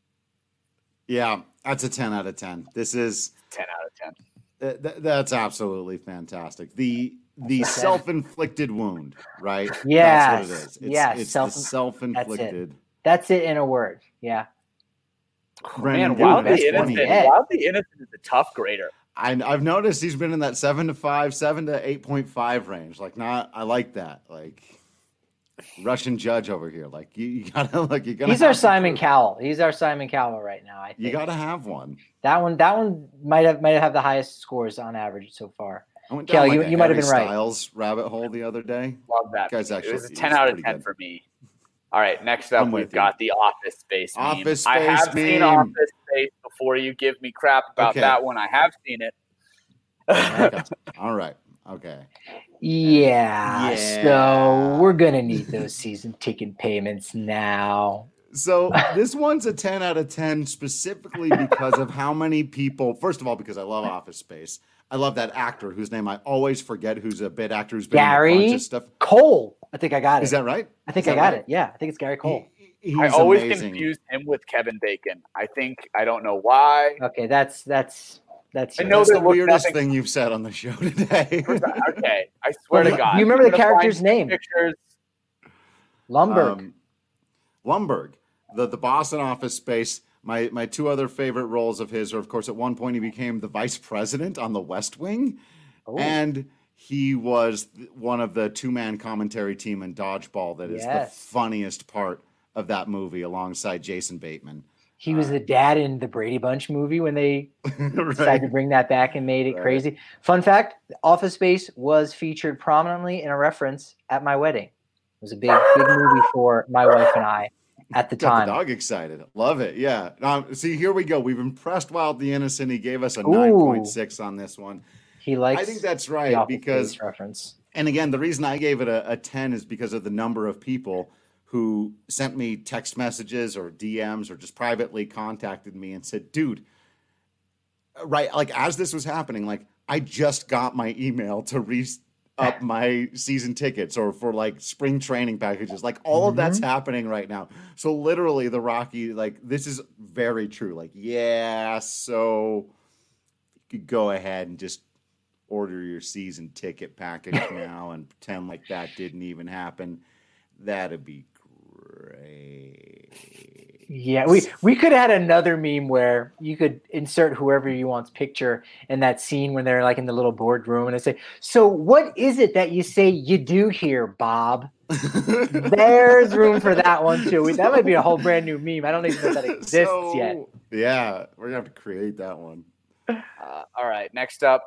Yeah, that's a ten out of ten. This is ten out of ten. uh, th- that's absolutely fantastic. The the That's a ten. self-inflicted wound, right? Yes. That's what it is. It's, Yes, it's self- the self-inflicted. That's it in a word. Yeah. Brandon, Man, dude, Wildly that's Innocent. funny. Yeah. Wildly Innocent is a tough grader. I, I've noticed he's been in that seven to five, seven to eight point five range. Like, not I like that. Like Russian judge over here. Like you, you gotta look. You gotta. He's our have to Simon prove- Cowell. He's our Simon Cowell right now, I think. You gotta have one. That one that one might have might have the highest scores on average so far. I went Kel, down like you- a you might have Harry been right. Styles rabbit hole the other day. Love that. Guy's meme. actually- it was a he's ten out of pretty ten good. for me. All right, next up I'm we've with you. got the Office Space meme. Office I have Space seen meme. Office Space before you give me crap about Okay. that one. I have seen it. Okay. All right. Okay. Yeah. Yeah. So we're gonna need those season ticket payments now. So this one's a ten out of ten specifically because of how many people, first of all, because I love Office Space. I love that actor whose name I always forget, who's a bit actor who's been Gary in a bunch of stuff. Cole. I think I got it. Is that right? I think Is I that got right? it. Yeah, I think it's Gary Cole. He, he's I always amazing. confused him with Kevin Bacon. I think I don't know why. Okay, that's that's that's. I know That's there the was weirdest nothing- thing you've said on the show today. Okay, I swear Well, to God. you remember the I'm gonna character's find name? Pictures. Lumberg. Um, Lumberg, the, the boss in Office Space. My my two other favorite roles of his are, of course, at one point he became the vice president on The West Wing, Oh. and he was one of the two man commentary team in Dodgeball. That is Yes. the funniest part of that movie, alongside Jason Bateman. He was the dad in the Brady Bunch movie when they decided to Right. bring that back and made it Right. crazy. Fun fact: Office Space was featured prominently in a reference at my wedding. It was a big, big movie for my wife and I at the Got time. the dog excited. Love it. Yeah. Um, see, here we go. We've impressed Wild the Innocent. He gave us a Ooh. nine point six on this one. He likes. I think that's the right Office because Space reference. And again, the reason I gave it a, a ten is because of the number of people who sent me text messages or D Ms or just privately contacted me and said, dude, right, like as this was happening, like I just got my email to re up my season tickets or for like spring training packages. Like all of that's happening right now. So literally the Rocky, like this is very true. Like, yeah, so you could go ahead and just order your season ticket package now and pretend like that didn't even happen. That'd be great. Yeah, we we could have had another meme where you could insert whoever you want's picture in that scene when they're like in the little boardroom and they say, "So what is it that you say you do here, Bob?" There's room for that one too. That might be a whole brand new meme. I don't even know if that exists So, yet. Yeah, we're gonna have to create that one. Uh, all right, next up.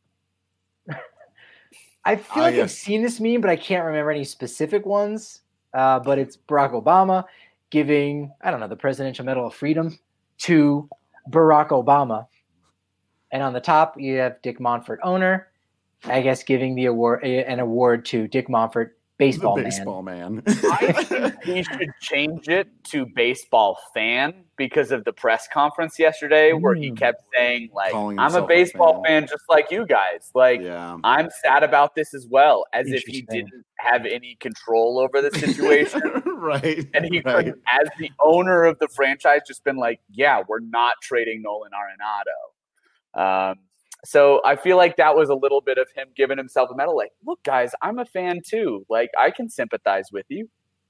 I feel Ah, like yes. I've seen this meme, but I can't remember any specific ones. Uh, but it's Barack Obama giving, I don't know, the Presidential Medal of Freedom to Barack Obama. And on the top, you have Dick Monfort, owner, I guess giving the award an award to Dick Monfort, baseball, the man. baseball man. I think we should change it to baseball fan because of the press conference yesterday where he Mm. kept saying, like, Calling I'm a himself a baseball fan. fan just like you guys. Like, Yeah. I'm sad about this as well, as if he Interesting. didn't have any control over the situation. right. And he right. couldn't, as the owner of the franchise, just been like, yeah, we're not trading Nolan Arenado. Um, so I feel like that was a little bit of him giving himself a medal. Like, look, guys, I'm a fan too. Like, I can sympathize with you.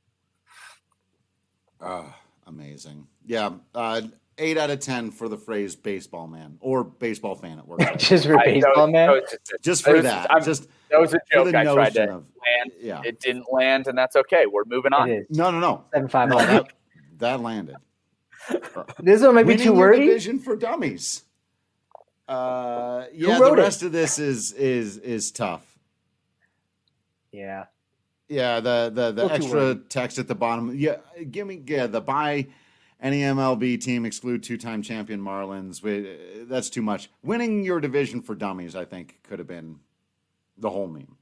Ah, amazing. Yeah. Uh, eight out of ten for the phrase baseball man or baseball fan. It works. out. Just for I- that baseball, was- man. that was just, a- Just that for was- that. I'm- Just that was a for joke the I tried to notion of land. yeah. It didn't land, and that's okay. We're moving on. It is. No, no, no. Seven five No, one. that, that landed. This one might be Winning too your wordy. division for dummies. Uh, yeah, wrote the it? rest of this is is is tough. Yeah. Yeah, the the, the Little too extra wordy. text at the bottom. Yeah, give me yeah the buy any M L B team exclude two time champion Marlins. We, that's too much. Winning your division for dummies, I think, could have been the whole meme.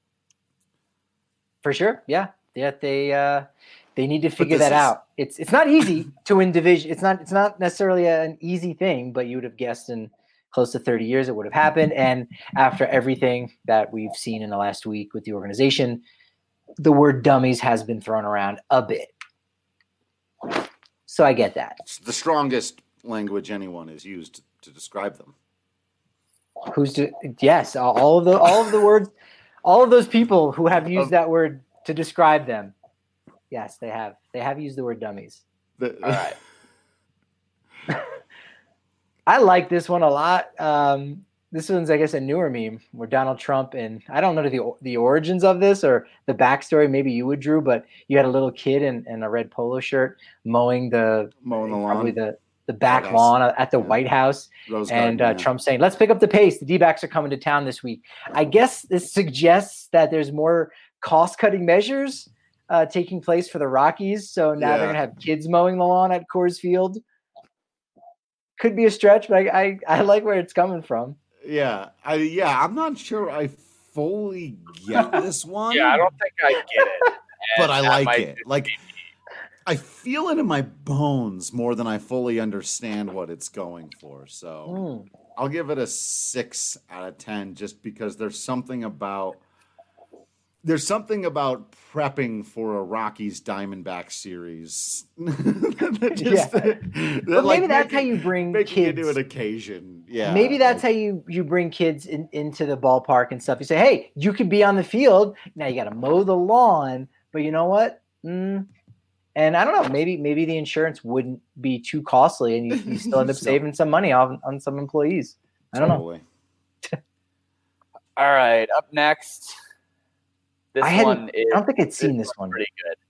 For sure. Yeah. Yeah. They uh they need to figure this that is- out. It's it's not easy to win division. It's not it's not necessarily a- an easy thing, but you would have guessed in close to thirty years it would have happened. And after everything that we've seen in the last week with the organization, the word dummies has been thrown around a bit. So I get that. It's the strongest language anyone has used to describe them. Who's to, yes, all of the all of the words, all of those people who have used Of- that word to describe them. Yes, they have. They have used the word dummies. The- All right. I like this one a lot. Um, this one's, I guess, a newer meme where Donald Trump and I don't know the the origins of this or the backstory. Maybe you would, Drew, but you had a little kid in, in a red polo shirt mowing the Mowing the probably lawn. the the back White House. lawn at the Yeah. White House. Rose And Garden, uh, yeah. Trump saying, let's pick up the pace. The D-backs are coming to town this week. I guess this suggests that there's more cost-cutting measures uh, taking place for the Rockies. So now Yeah. they're going to have kids mowing the lawn at Coors Field. Could be a stretch, but I, I, I like where it's coming from. Yeah, I yeah, I'm not sure I fully get this one. Yeah, I don't think I get it. but And I that like might it. just Like, be- I feel it in my bones more than I fully understand what it's going for. So Mm. I'll give it a six out of ten, just because there's something about there's something about prepping for a Rockies Diamondback series. that just, Yeah. that, But like, maybe that's how making- you bring making kids. it to an occasion. Yeah, Maybe that's like, how you you bring kids in, into the ballpark and stuff. You say, hey, you can be on the field. Now you got to mow the lawn, but you know what? Mm. And I don't know. Maybe maybe the insurance wouldn't be too costly, and you, you still end up So- saving some money on on some employees. I don't know. totally. All right, up next. This I hadn't. one is I don't think I'd seen this one's one. pretty good.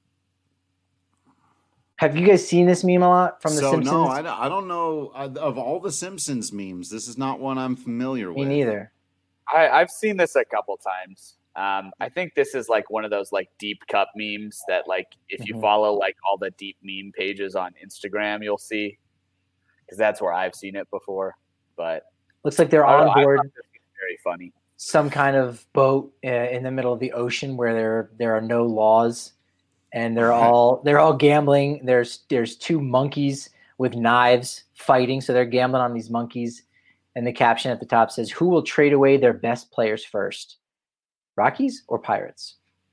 Have you guys seen this meme a lot from The so Simpsons? no, I, don't- I don't know uh, of all the Simpsons memes. This is not one I'm familiar Me with. neither. I, I've seen this a couple times. Um, I think this is like one of those like deep cup memes that like if you Mhm. follow like all the deep meme pages on Instagram, you'll see, because that's where I've seen it before. But Looks like they're I don't on know, I board thought this was very funny. some kind of boat uh, in the middle of the ocean where there there are no laws, and they're all they're all gambling. There's there's two monkeys with knives fighting, so they're gambling on these monkeys. And the caption at the top says, "Who will trade away their best players first, Rockies or Pirates?"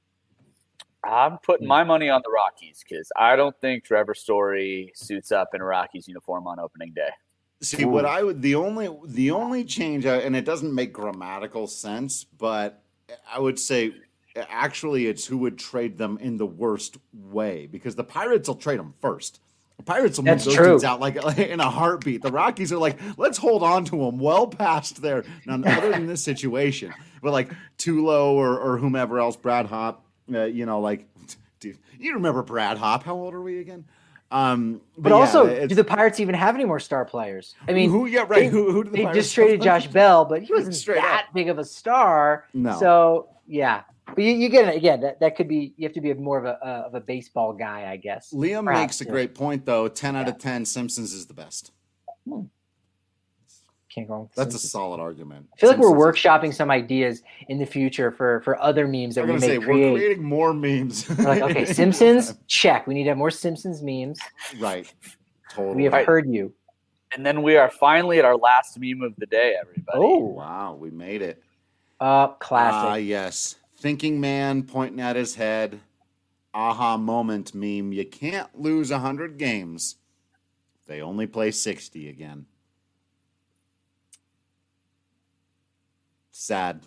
I'm putting Hmm. my money on the Rockies because I don't think Trevor Story suits up in a Rockies uniform on opening day. See, what I would the only the only change, uh, and it doesn't make grammatical sense, but I would say actually it's who would trade them in the worst way, because the Pirates will trade them first. The Pirates will move That's those true. dudes out like in a heartbeat. The Rockies are like, let's hold on to them well past there. Now, other than this situation, but like Tulo or or whomever else, Brad Hop, uh, you know, like, dude, you remember Brad Hop? How old are we again? Um, But, yeah, also, it's- do the Pirates even have any more star players? I mean, who? Yeah, right. they- who? Who did the they Pirates just traded have? Josh Bell, but he wasn't Straight that big of a star. No. So yeah, but you, you get it again. That, that could be you have to be more of a uh, of a baseball guy, I guess. Liam Perhaps, makes a yeah. great point, though. ten out of ten, Simpsons is the best. Can't go wrong with the That's a Simpsons. solid argument. I feel like we're Simpsons is the workshopping best. some ideas in the future for for other memes that I'm we going may to say, we're create. creating more memes. We're like, okay, Simpsons, check. We need to have more Simpsons memes. Right. Totally. We have Right. heard you. And then we are finally at our last meme of the day, everybody. Oh, Wow, we made it. uh, Ah, classic. yes. Thinking man pointing at his head. Aha moment meme. You can't lose one hundred games. They only play sixty again. Sad.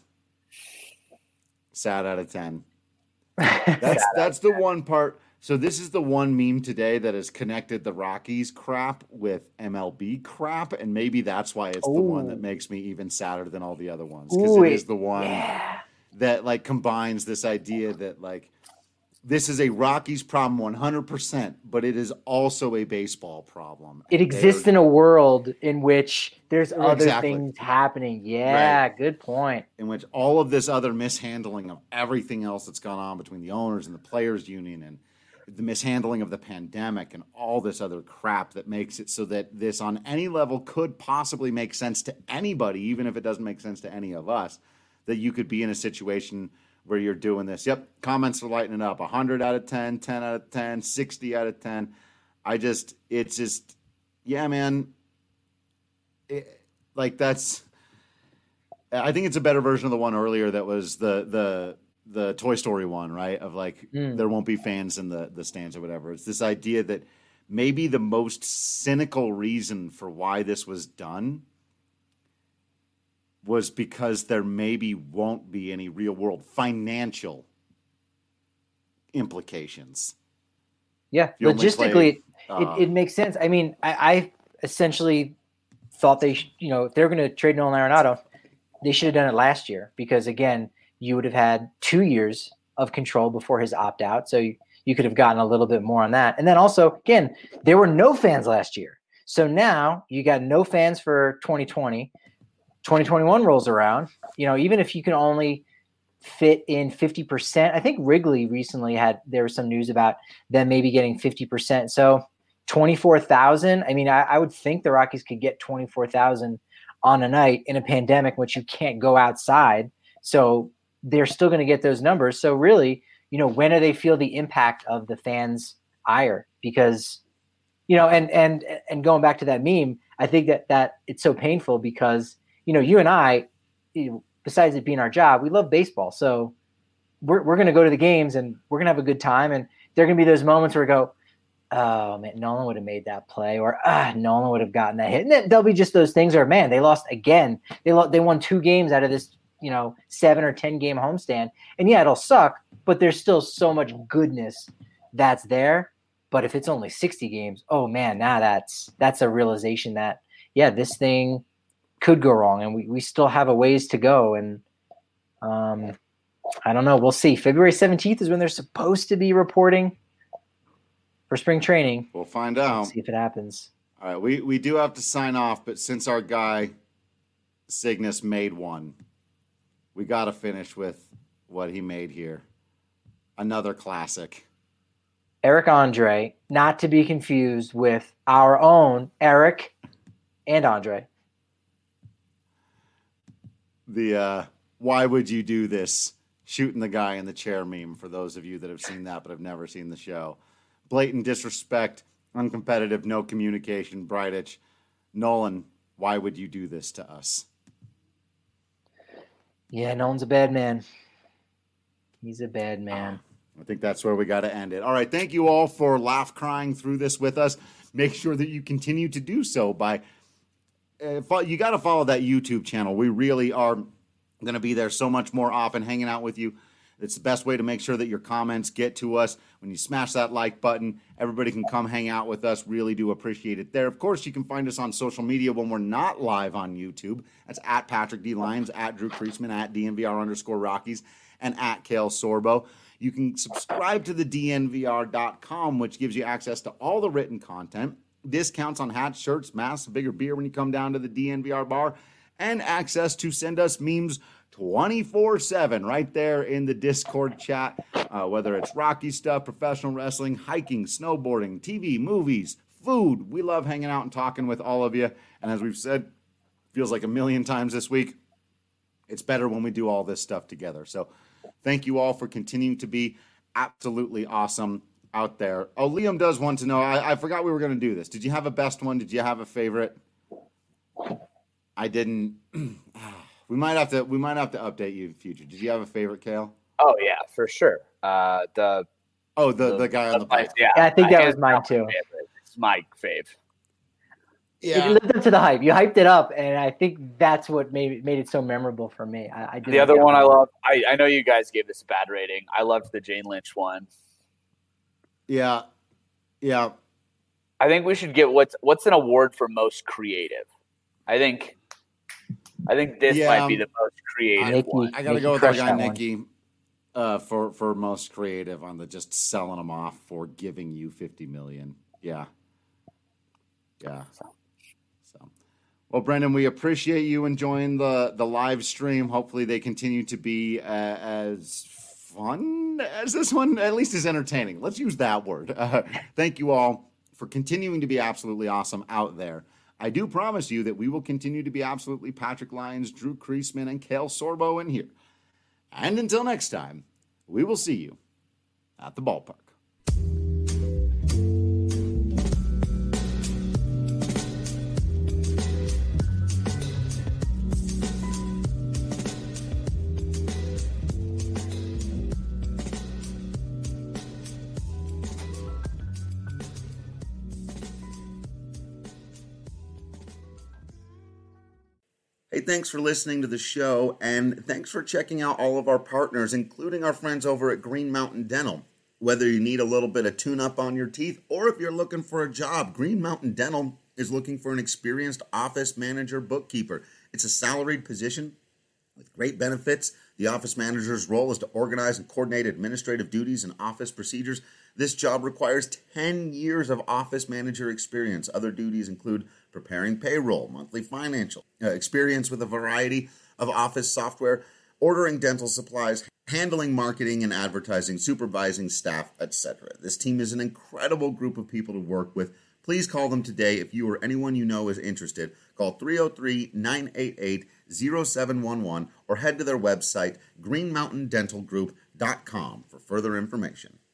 Sad out of ten. That's that's the one part. So this is the one meme today that has connected the Rockies crap with M L B crap, and maybe that's why it's the one that Ooh. makes me even sadder than all the other ones, because Ooh, it is it- the one yeah. that like combines this idea that like this is a Rockies problem one hundred percent, but it is also a baseball problem. It And exists they're- in a world in which there's other Exactly. things happening. Yeah, good point. in which all of this other mishandling of everything else that's gone on between the owners and the players union and the mishandling of the pandemic and all this other crap that makes it so that this on any level could possibly make sense to anybody, even if it doesn't make sense to any of us, that you could be in a situation where you're doing this. Yep, comments are lighting it up. one hundred out of ten, ten out of ten, sixty out of ten. I just, it's just, yeah, man. It, like that's, I think it's a better version of the one earlier that was the the the Toy Story one, right? Of like Mm. there won't be fans in the the stands or whatever. It's this idea that maybe the most cynical reason for why this was done was because there maybe won't be any real world financial implications. Yeah, You only logistically, play, uh, it, it makes sense. I mean, I, I essentially thought they, sh- you know, if they're going to trade Nolan Arenado, they should have done it last year because again, you would have had two years of control before his opt out, so you, you could have gotten a little bit more on that. And then also, again, there were no fans last year, so now you got no fans for twenty twenty. twenty twenty-one rolls around. You know, even if you can only fit in fifty percent, I think Wrigley recently had there was some news about them maybe getting fifty percent. So twenty-four thousand. I mean, I, I would think the Rockies could get twenty-four thousand on a night in a pandemic, in which you can't go outside. So they're still going to get those numbers. So really, you know, when do they feel the impact of the fans hire because, you know, and and and going back to that meme, I think that that it's so painful because, you know, you and I, you know, besides it being our job, we love baseball. So we're we're going to go to the games and we're going to have a good time. And there are going to be those moments where we go, oh, man, Nolan would have made that play, or ah, Nolan would have gotten that hit. And then there'll be just those things where, man, they lost again. They lo- they won two games out of this, you know, seven or ten game homestand. And yeah, it'll suck, but there's still so much goodness that's there. But if it's only sixty games, oh man, now that's that's a realization that, yeah, this thing could go wrong, and we, we still have a ways to go. And um, I don't know. We'll see. February seventeenth is when they're supposed to be reporting for spring training. We'll find out. Let's see if it happens. All right, we, we do have to sign off, but since our guy Cygnus made one, we got to finish with what he made here. Another classic. Eric Andre, not to be confused with our own Eric and Andre. The uh, why would you do this? Shooting the guy in the chair meme, for those of you that have seen that but have never seen the show. Blatant disrespect, uncompetitive, no communication, Bridich. Nolan, why would you do this to us? Yeah, Nolan's a bad man. He's a bad man. I think that's where we got to end it. All right, thank you all for laugh crying through this with us. Make sure that you continue to do so by uh, you got to follow that YouTube channel. We really are going to be there so much more often, hanging out with you. It's the best way to make sure that your comments get to us. When you smash that like button, everybody can come hang out with us. Really do appreciate it there. Of course, you can find us on social media when we're not live on YouTube. That's at Patrick D. Lyons, at Drew Creasman, at D N V R underscore Rockies, and at Kale Sorbo. You can subscribe to the D N V R dot com, which gives you access to all the written content, discounts on hats, shirts, masks, bigger beer when you come down to the D N V R bar, and access to send us memes twenty-four seven right there in the Discord chat, uh, whether it's Rocky stuff, professional wrestling, hiking, snowboarding, T V, movies, food. We love hanging out and talking with all of you. And as we've said, feels like a million times this week, it's better when we do all this stuff together. So thank you all for continuing to be absolutely awesome out there. Oh, Liam does want to know, I, I forgot we were going to do this. Did you have a best one? Did you have a favorite? I didn't. We might have to. We might have to update you in the future. Did you have a favorite, Kale? Oh yeah, for sure. Uh, the oh the, the the guy on the pipe. Yeah, yeah, I think that was hands mine down too. favorite. It's my fave. It lived up to the hype. You hyped it up, and I think that's what made it, made it so memorable for me. I, I did The other one I love. I, I know you guys gave this a bad rating. I loved the Jane Lynch one. Yeah, yeah. I think we should get what's what's an award for most creative. I think. I think this Yeah, might be the most creative Nikki, one. I got to Nikki go with our crushed guy that one. Nikki uh, for for most creative on the just selling them off for giving you fifty million. Yeah, yeah. So, well, Brendan, we appreciate you enjoying the the live stream. Hopefully, they continue to be uh, as fun as this one, at least as entertaining. Let's use that word. Uh, thank you all for continuing to be absolutely awesome out there. I do promise you that we will continue to be absolutely Patrick Lyons, Drew Creasman, and Kale Sorbo in here. And until next time, we will see you at the ballpark. Hey, thanks for listening to the show, and thanks for checking out all of our partners, including our friends over at Green Mountain Dental. Whether you need a little bit of tune-up on your teeth, or if you're looking for a job, Green Mountain Dental is looking for an experienced office manager bookkeeper. It's a salaried position with great benefits. The office manager's role is to organize and coordinate administrative duties and office procedures. This job requires ten years of office manager experience. Other duties include preparing payroll, monthly financial, uh, experience with a variety of office software, ordering dental supplies, handling marketing and advertising, supervising staff, et cetera. This team is an incredible group of people to work with. Please call them today if you or anyone you know is interested. Call three oh three, nine eight eight, oh seven one one or head to their website, green mountain dental group dot com, for further information.